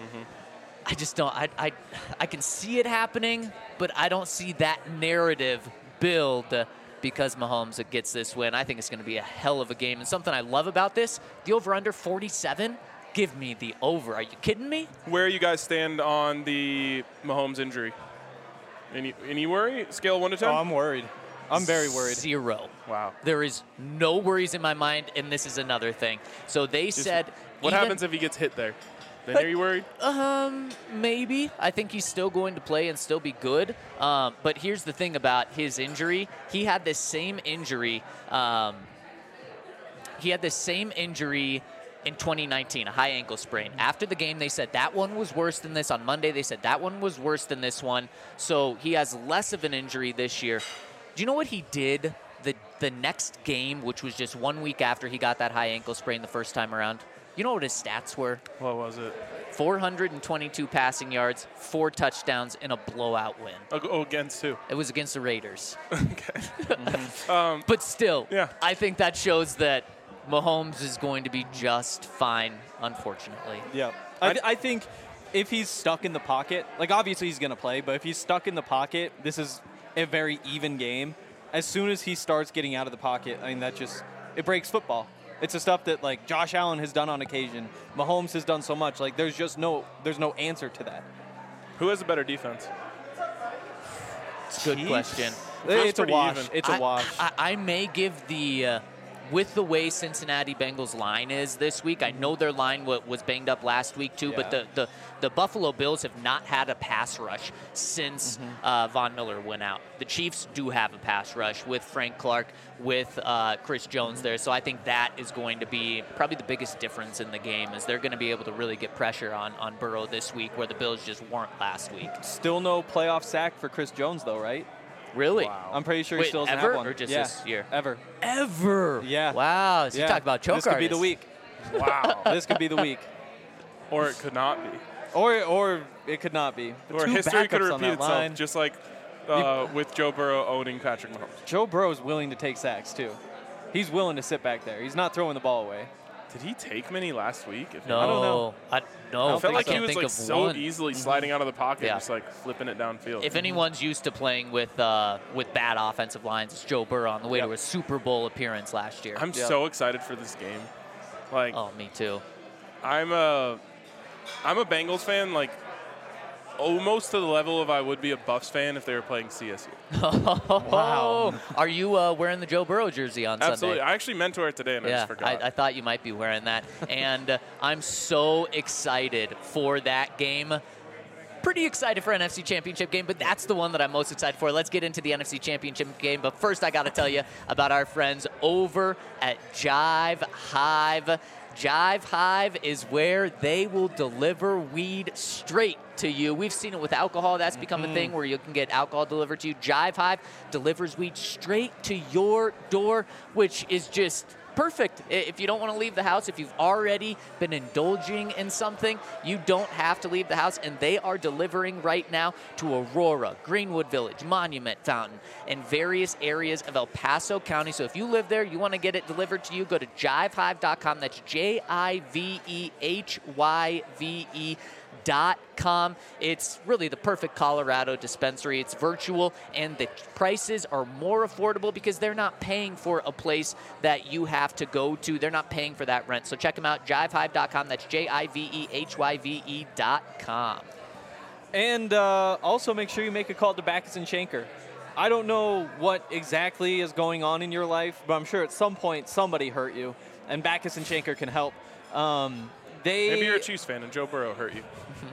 I just don't. I, I I can see it happening, but I don't see that narrative build because Mahomes gets this win. I think it's going to be a hell of a game. And something I love about this, the over-under forty-seven. Give me the over. Are you kidding me? Where you guys stand on the Mahomes injury? Any any worry? Scale of one to ten? Oh, I'm worried. I'm very worried. Zero. wow. There is no worries in my mind, and this is another thing. So they Just- said. What even- happens if he gets hit there? Then are you worried? Um, maybe. I think he's still going to play and still be good. Um, but here's the thing about his injury. He had this same injury. Um, he had this same injury in twenty nineteen, a high ankle sprain. After the game, they said that one was worse than this. On Monday, they said that one was worse than this one. So he has less of an injury this year. Do you know what he did the the next game, which was just one week after he got that high ankle sprain the first time around? You know what his stats were? What was it? four hundred twenty-two passing yards, four touchdowns, in a blowout win. Oh, oh, against who? It was against the Raiders. Okay. um, But still, Yeah. I think that shows that Mahomes is going to be just fine, unfortunately. Yeah. I, th- I think if he's stuck in the pocket, like obviously he's going to play, but if he's stuck in the pocket, this is a very even game. As soon as he starts getting out of the pocket, I mean, that just, it breaks football. It's the stuff that like Josh Allen has done on occasion. Mahomes has done so much. Like there's just no, there's no answer to that. who has a better defense? It's a good question. Feels It's a pretty wash. even. It's a I, wash. I, I may give the, uh, with the way Cincinnati Bengals line is this week, I know their line w- was banged up last week too, but Yeah. the, the, the Buffalo Bills have not had a pass rush since Mm-hmm. uh, Von Miller went out. The Chiefs do have a pass rush with Frank Clark, with uh, Chris Jones there, so I think that is going to be probably the biggest difference in the game is they're going to be able to really get pressure on, on Burrow this week where the Bills just weren't last week. Still no playoff sack for Chris Jones though, right? Really? I'm pretty sure he Wait, still doesn't ever have one. or just yeah, this year? Ever. Ever? Yeah. Wow. So yeah. you talk about choke This could be the artists. week. Wow. This could be the week. Or it could not be. Or or it could not be. The Or two history could backups on repeat that itself, line. just like uh, with Joe Burrow owning Patrick Mahomes. Joe Burrow is willing to take sacks too. He's willing to sit back there. He's not throwing the ball away. Did he take many last week? If No. I don't know. I, no. I don't felt think like so. he can't was think like of so one. easily sliding out of the pocket, Yeah. just like flipping it downfield. If anyone's used to playing with uh, with bad offensive lines, it's Joe Burrow on the way Yep. to a Super Bowl appearance last year. I'm Yeah. so excited for this game. Like oh, me too. I'm a I'm a Bengals fan. Like almost to the level of I would be a Buffs fan if they were playing C S U. Wow. Are you uh, wearing the Joe Burrow jersey on Absolutely. Sunday? I actually meant to wear it today, and I Yeah, just forgot. I, I thought you might be wearing that. And uh, I'm so excited for that game. Pretty excited for N F C Championship game, but that's the one that I'm most excited for. Let's get into the N F C Championship game. But first, I got to tell you about our friends over at Jive Hive. Jive Hive is where they will deliver weed straight to you. We've seen it with alcohol. That's become a thing where you can get alcohol delivered to you. Jive Hive delivers weed straight to your door, which is just perfect. If you don't want to leave the house, if you've already been indulging in something, you don't have to leave the house, and they are delivering right now to Aurora, Greenwood Village, Monument Fountain, and various areas of El Paso County. So if you live there, you want to get it delivered to you, go to jive hive dot com. That's J I V E H Y V E dot com. It's really the perfect Colorado dispensary. It's virtual, and the prices are more affordable because they're not paying for a place that you have to go to. They're not paying for that rent. So check them out, jive hive dot com. That's J I V E H Y V E dot com. And uh, also make sure you make a call to Backus and Shanker. I don't know what exactly is going on in your life, but I'm sure at some point somebody hurt you, and Backus and Shanker can help. Um, they Maybe you're a Chiefs fan and Joe Burrow hurt you.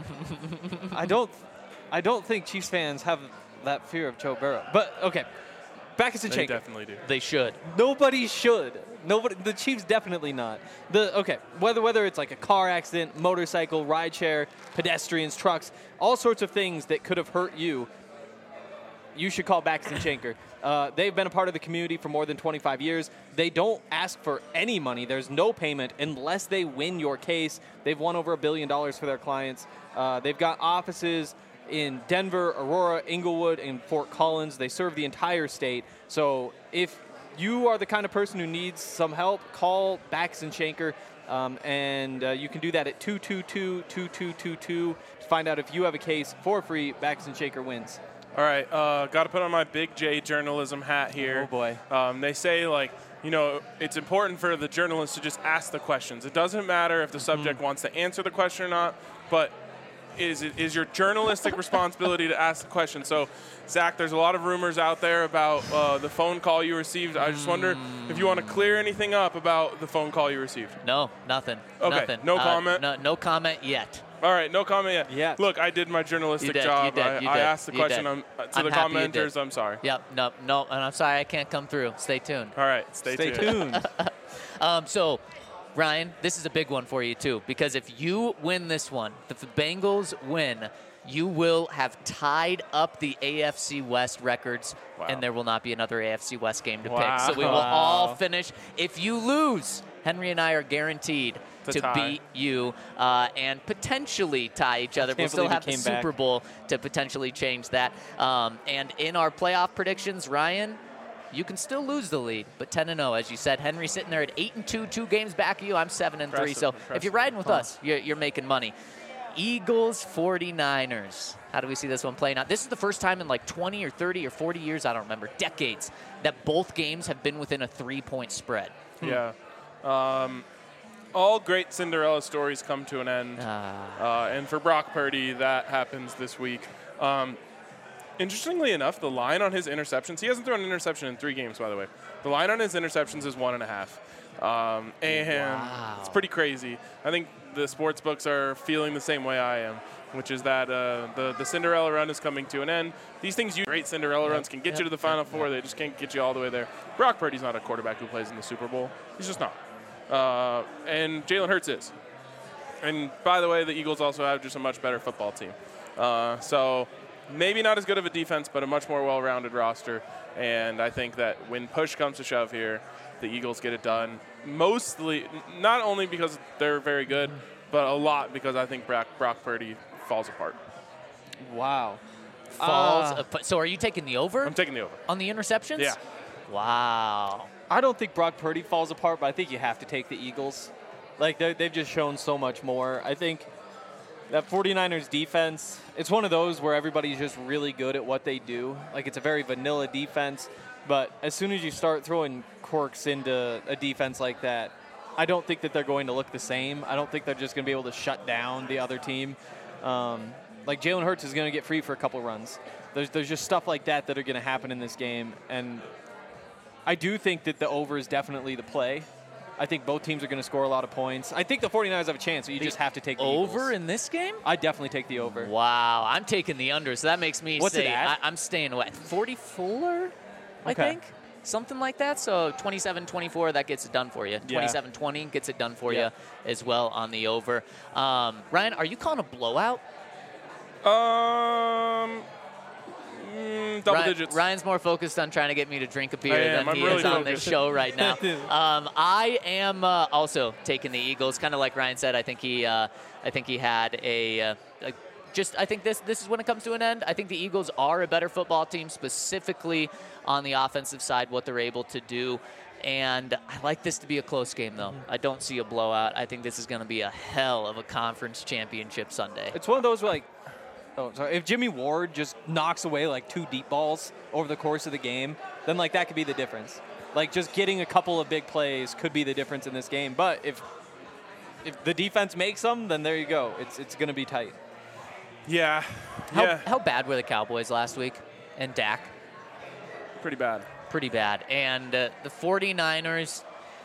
I don't, I don't think Chiefs fans have that fear of Joe Burrow. But okay, Backus and They Shanker. definitely do. They should. Nobody should. Nobody. The Chiefs definitely not. The okay. Whether whether it's like a car accident, motorcycle, rideshare, pedestrians, trucks, all sorts of things that could have hurt you. You should call Backus and Shanker. Uh, they've been a part of the community for more than twenty-five years. They don't ask for any money. There's no payment unless they win your case. They've won over a billion dollars for their clients. Uh, they've got offices in Denver, Aurora, Inglewood, and Fort Collins. They serve the entire state. So if you are the kind of person who needs some help, call Backus and Shanker. Um, and uh, you can do that at two two two, two two two two to find out if you have a case for free. Backus and Shanker wins. All right, uh, got to put on my Big J journalism hat here. Oh, boy. Um, they say, like, you know, it's important for the journalist to just ask the questions. It doesn't matter if the subject wants to answer the question or not, but is it is your journalistic responsibility to ask the question. So, Zach, there's a lot of rumors out there about uh, the phone call you received. I just wonder if you want to clear anything up about the phone call you received. No, nothing. Okay, Nothing. no Uh, comment? No, no comment yet. All right, no comment yet. Yes. Look, I did my journalistic You did, job. you did, I, you I did, asked the you question did. um, uh, to I'm the happy you commenters. did. I'm sorry. Yep, no, no, and I'm sorry I can't come through. Stay tuned. All right, stay, Stay tuned. tuned. Um, so, Ryan, this is a big one for you, too, because if you win this one, if the Bengals win, you will have tied up the A F C West records, Wow. and there will not be another A F C West game to Wow. pick. So we will Wow. all finish. If you lose, Henry and I are guaranteed To to, tie. beat you uh, and potentially tie each other. We'll can't still believe he have the came back. Super Bowl to potentially change that. Um, and in our playoff predictions, Ryan, you can still lose the lead, but ten and oh, as you said. Henry sitting there at eight and two, two games back of you. I'm seven and three. Impressive, So impressive. if you're riding with us, you're, you're making money. Eagles forty-niners. How do we see this one playing out? This is the first time in like twenty or thirty or forty years, I don't remember, decades, that both games have been within a three-point spread. Yeah. Um, all great Cinderella stories come to an end. Ah. Uh, and for Brock Purdy, that happens this week. Um, interestingly enough, the line on his interceptions, he hasn't thrown an interception in three games, by the way. The line on his interceptions is one and a half. Um, and Wow. it's pretty crazy. I think the sports books are feeling the same way I am, which is that uh, the, the Cinderella run is coming to an end. These things, you great Cinderella runs can get yep, you to the Final yep, Four. They just can't get you all the way there. Brock Purdy's not a quarterback who plays in the Super Bowl. He's just not. Uh, and Jalen Hurts is. And by the way, the Eagles also have just a much better football team. Uh, so maybe not as good of a defense, but a much more well-rounded roster. And I think that when push comes to shove here, the Eagles get it done. Mostly, n- not only because they're very good, but a lot because I think Brock, Brock Purdy falls apart. Wow. Falls. Uh, ap- so are you taking the over I'm taking the over. on the interceptions? Yeah. Wow. I don't think Brock Purdy falls apart, but I think you have to take the Eagles. Like, they- they've just shown so much more. I think that forty-niners defense, it's one of those where everybody's just really good at what they do. Like, it's a very vanilla defense, but as soon as you start throwing quirks into a defense like that, I don't think that they're going to look the same. I don't think they're just going to be able to shut down the other team. Um, Like Jalen Hurts is going to get free for a couple runs. There's there's just stuff like that that are going to happen in this game, and I do think that the over is definitely the play. I think both teams are going to score a lot of points. I think the 49ers have a chance, so you just have to take the Over Eagles. in this game? I definitely take the over. Wow, I'm taking the under, so that makes me What's say it at? I, I'm staying away. forty-four, I Okay. think? Something like that. So twenty-seven twenty-four, that gets it done for you. twenty-seven twenty gets it done for Yeah. you as well on the over. Um, Ryan, are you calling a blowout? Um, mm, double Ryan, digits. Ryan's more focused on trying to get me to drink a beer I am. than I'm he really is on this focused. show right now. um, I am uh, also taking the Eagles, kind of like Ryan said. I think he, uh, I think he had a, uh, a just. I think this this is when it comes to an end. I think the Eagles are a better football team, specifically on the offensive side, what they're able to do. And I like this to be a close game, though. I don't see a blowout. I think this is going to be a hell of a conference championship Sunday. It's one of those where, like, oh, sorry. If Jimmy Ward just knocks away like two deep balls over the course of the game, then like that could be the difference. Like just getting a couple of big plays could be the difference in this game. But if if the defense makes them, then there you go. It's it's going to be tight. Yeah. How, yeah. how bad were the Cowboys last week? And Dak? Pretty bad. Pretty bad. And uh, the 49ers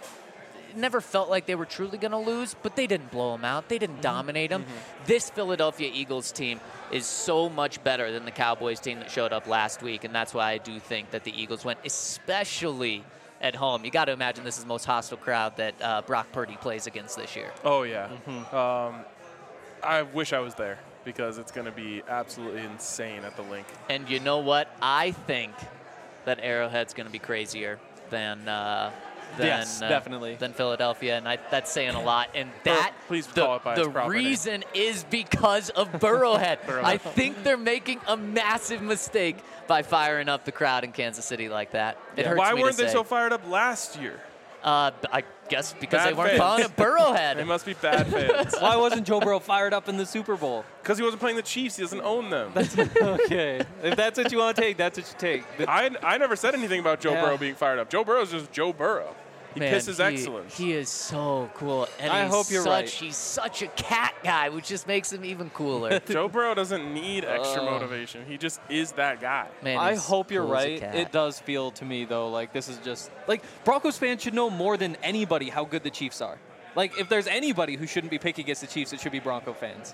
it never felt like they were truly going to lose, but they didn't blow them out. They didn't dominate them. Mm-hmm. This Philadelphia Eagles team is so much better than the Cowboys team that showed up last week, and that's why I do think that the Eagles win, especially at home. You got to imagine this is the most hostile crowd that uh, Brock Purdy plays against this year. Oh, yeah. Mm-hmm. Um, I wish I was there because it's going to be absolutely insane at the Link. And you know what? I think that Arrowhead's going to be crazier than uh, than Yes, uh, definitely. than Philadelphia, and I, that's saying a lot. And that please the, call it by its the proper name. reason is because of Burrowhead. Burrowhead. I think they're making a massive mistake by firing up the crowd in Kansas City like that. It hurts Why me weren't to they say. so fired up last year? Uh, I guess because Bad they weren't fans. calling it Burrowhead. They must be bad fans. Why wasn't Joe Burrow fired up in the Super Bowl? Because he wasn't playing the Chiefs. He doesn't own them. Okay. If that's what you want to take, that's what you take. But I, I never said anything about Joe Yeah. Burrow being fired up. Joe Burrow's just Joe Burrow. He Man, pisses he, excellence. He is so cool. And I he's hope you're such, right. He's such a cat guy, which just makes him even cooler. Joe Burrow doesn't need extra Oh. motivation. He just is that guy. Man, I he's hope you're cool as a right. cat. It does feel to me, though, like this is just like Broncos fans should know more than anybody how good the Chiefs are. Like, if there's anybody who shouldn't be picking against the Chiefs, it should be Bronco fans.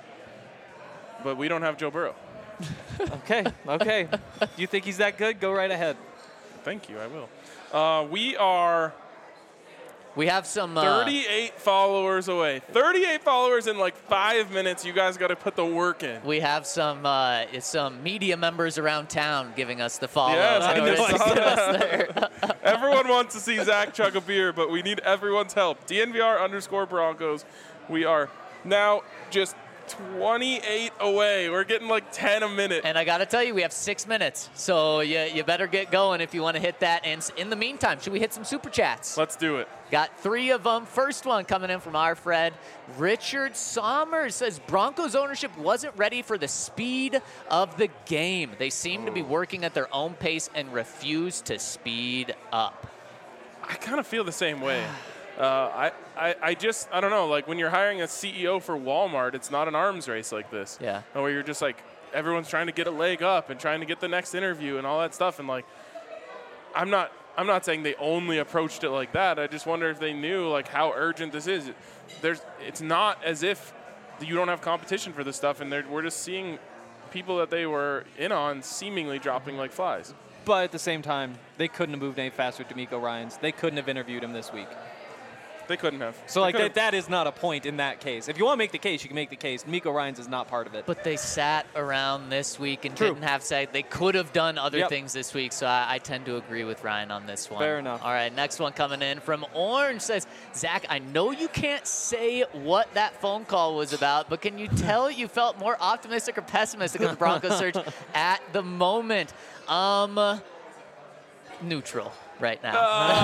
But we don't have Joe Burrow. Okay, okay. You think he's that good? Go right ahead. Thank you. I will. Uh, we are We have some. Uh, thirty-eight followers away. thirty-eight followers in like five minutes. You guys got to put the work in. we have some uh, some media members around town giving us the follow. Yes, So I know. it's I saw get us there. Everyone wants to see Zach chug a beer, but we need everyone's help. D N V R underscore Broncos. We are now just twenty-eight away. We're getting like ten a minute. And I got to tell you, we have six minutes, so you you better get going if you want to hit that. And s- in the meantime, should we hit some super chats? Let's do it. Got three of them. First one coming in from our friend Richard Sommers says Broncos ownership wasn't ready for the speed of the game. They seem to be working at their own pace and refuse to speed up. I kind of feel the same way. Uh, I, I, I just, I don't know, like when you're hiring a C E O for Walmart, it's not an arms race like this. Yeah. Where you're just like, everyone's trying to get a leg up and trying to get the next interview and all that stuff. And like, I'm not, I'm not saying they only approached it like that. I just wonder if they knew like how urgent this is. There's, it's not as if you don't have competition for this stuff, and they're, we're just seeing people that they were in on seemingly dropping like flies. But at the same time, they couldn't have moved any faster with D'Amico Ryans. They couldn't have interviewed him this week. They couldn't have. So They like could've- that, that is not a point in that case. If you want to make the case, you can make the case. D'Amico Ryans is not part of it. But they sat around this week and True. didn't have say they could have done other Yep. things this week. So I, I tend to agree with Ryan on this one. Fair enough. All right, next one coming in from Orange says, Zach, I know you can't say what that phone call was about, but can you tell you felt more optimistic or pessimistic of the Broncos search at the moment? Um, neutral right now.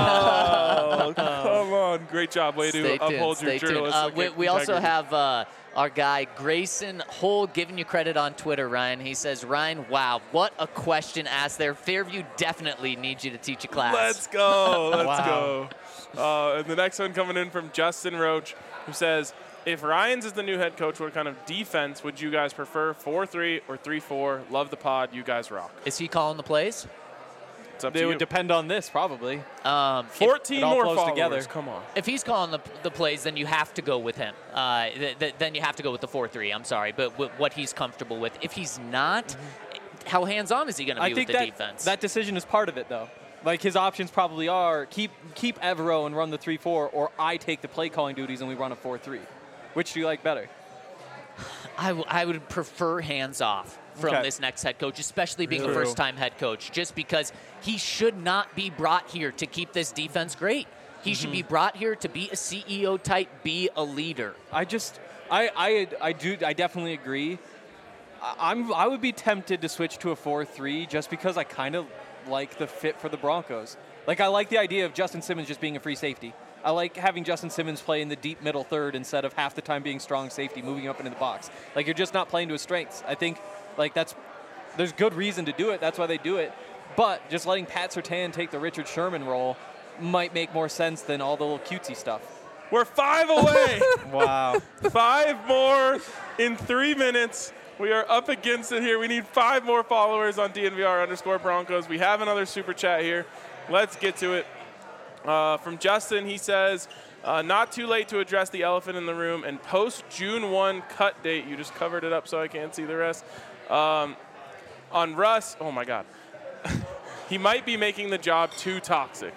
Oh, come on. Great job. Way Stay to tuned, uphold your stay tuned. journalistic Uh, we, we also integrity. have uh, our guy Grayson Hole giving you credit on Twitter, Ryan. He says, Ryan, wow, what a question asked there. Fairview definitely needs you to teach a class. Let's go. Let's Wow. go. Uh, and the next one coming in from Justin Roach, who says, if Ryans is the new head coach, what kind of defense would you guys prefer? four three or three four? Love the pod. You guys rock. Is he calling the plays? It's up They to would you. depend on this, probably. Um, if, fourteen it all more flows followers. together. Come on. if he's calling the, the plays, then you have to go with him. Uh, th- th- then you have to go with the four three. I'm sorry, but w- what he's comfortable with. If he's not, mm-hmm. how hands-on is he going to be I with think the that, defense? that decision is part of it, though. Like, his options probably are keep keep Evero and run the three four, or I take the play calling duties and we run a four three. Which do you like better? I, w- I would prefer hands-off from Okay. this next head coach, especially being a True. first-time head coach, just because he should not be brought here to keep this defense great. He should be brought here to be a C E O type, be a leader. I just, I, I, I do, I definitely agree. I, I'm, I would be tempted to switch to a four three just because I kind of like the fit for the Broncos. Like, I like the idea of Justin Simmons just being a free safety. I like having Justin Simmons play in the deep middle third instead of half the time being strong safety, moving up into the box. Like, you're just not playing to his strengths. I think, like, that's, there's good reason to do it. That's why they do it. But just letting Pat Surtain take the Richard Sherman role might make more sense than all the little cutesy stuff. We're five away. Wow. Five more in three minutes. We are up against it here. We need five more followers on D N V R underscore Broncos. We have another super chat here. Let's get to it. Uh, from Justin, he says, uh, not too late to address the elephant in the room and post June first cut date. You just covered it up so I can't see the rest. Um, on Russ, oh my God. He might be making the job too toxic.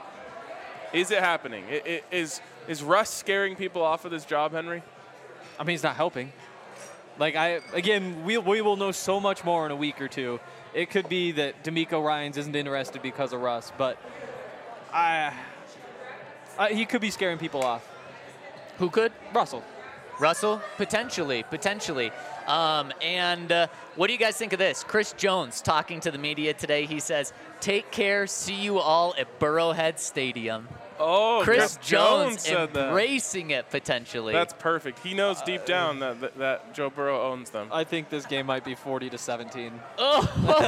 Is it happening? I- I- Is, is Russ scaring people off of this job, Henry? I mean, it's not helping. Like, I again, we, we will know so much more in a week or two. It could be that D'Amico Ryans isn't interested because of Russ, but I, I, he could be scaring people off. Who could? Russell. Russell? Potentially, potentially. Um, and uh, what do you guys think of this? Chris Jones talking to the media today. He says, take care, see you all at Burrowhead Stadium. Oh, Chris Chris Jones said that. embracing it potentially. That's perfect. He knows deep down that, that that Joe Burrow owns them. I think this game might be forty to seventeen. oh.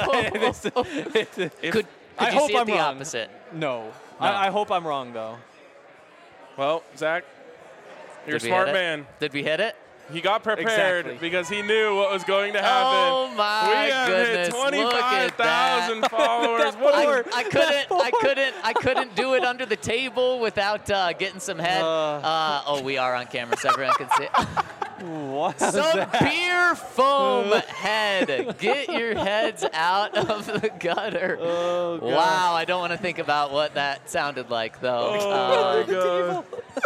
If- could could I you hope see it I'm the wrong. opposite? No. I, I hope I'm wrong, though. Well, Zach, you're a Did we smart hit it? man. Did we hit it? He got prepared Exactly. because he knew what was going to happen. Oh my we have goodness! hit Look twenty-five at that. thousand followers. What I, are I couldn't, I couldn't, I couldn't do it under the table without uh, getting some head. Uh. Uh, oh, we are on camera, so everyone can see. What? Some beer foam head. Get your heads out of the gutter. Oh, God. Wow, I don't want to think about what that sounded like, though. Oh, Uh,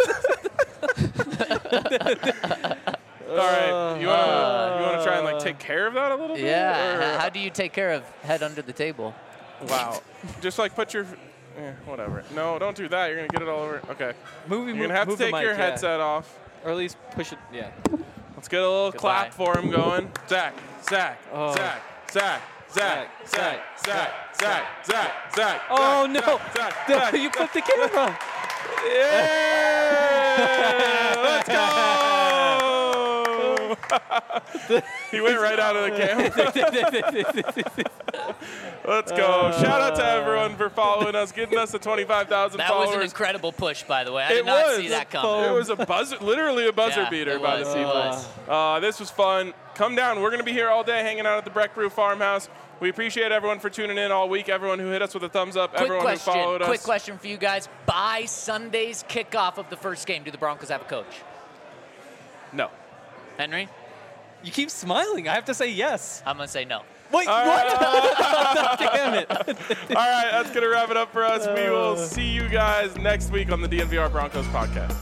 my God. All right, you want to you want to try and like take care of that a little bit? yeah. Or- h- How do you take care of head under the table? Wow. Just like put your, eh, whatever. No, don't do that. You're gonna get it all over. Okay. Movie, You're gonna have to move the take mic, your yeah. headset off. Or at least push it, yeah. Let's get a little Goodbye. clap for him going. Zach, Zach, Oh. Zach, Zach, Zach, Zach, Zach, Zach, Zach, Zach, Zach. Oh, Zach, no. Zach, No, Zach. you flipped the camera. Yeah! Let's go! He went right out of the camera. Let's go. Shout out to everyone for following us, getting us to twenty-five thousand That followers. was an incredible push, by the way. I It did not was. see that coming. It was a buzzer, literally a buzzer Yeah, beater it by was, the it people. was. Uh, this was fun. Come down. We're going to be here all day hanging out at the Breck Brew Farmhouse. We appreciate everyone for tuning in all week, everyone who hit us with a thumbs up, Quick everyone question, who followed quick us. question for you guys. By Sunday's kickoff of the first game, do the Broncos have a coach? No. Henry? You keep smiling. I have to say yes. I'm going to say no. Wait, All what? right. Damn it. All right, that's going to wrap it up for us. We will see you guys next week on the D N V R Broncos podcast.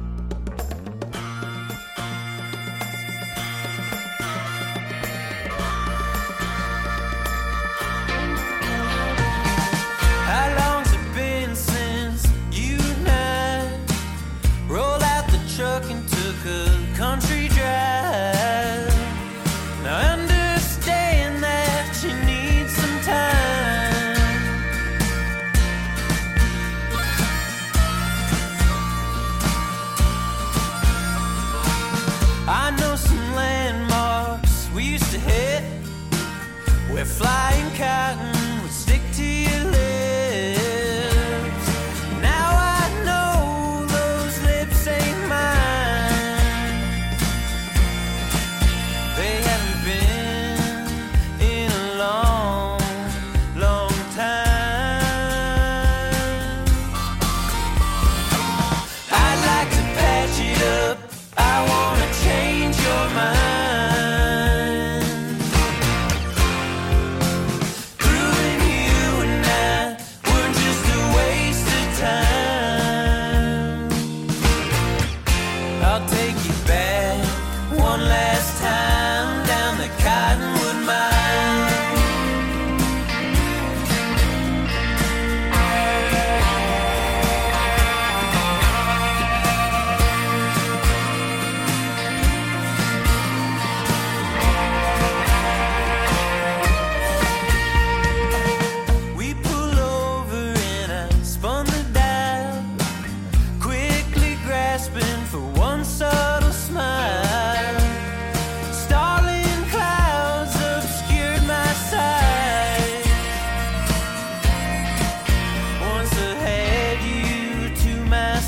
How long's it been since you and I rolled out the truck and took a country drive? Now I understand that you need some time. I know some landmarks we used to hit where flying cotton would stick to your lips. Now I know those lips ain't mine.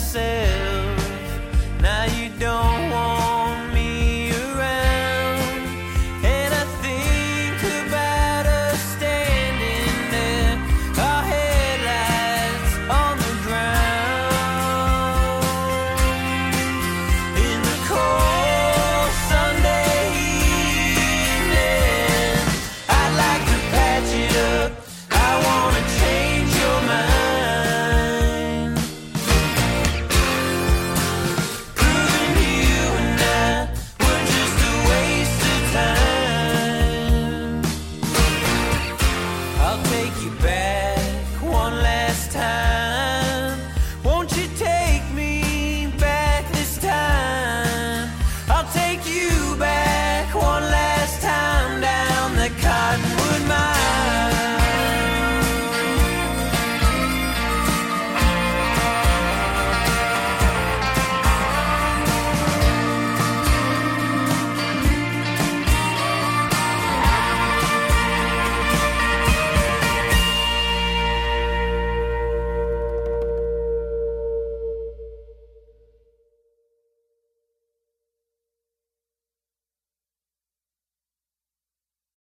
said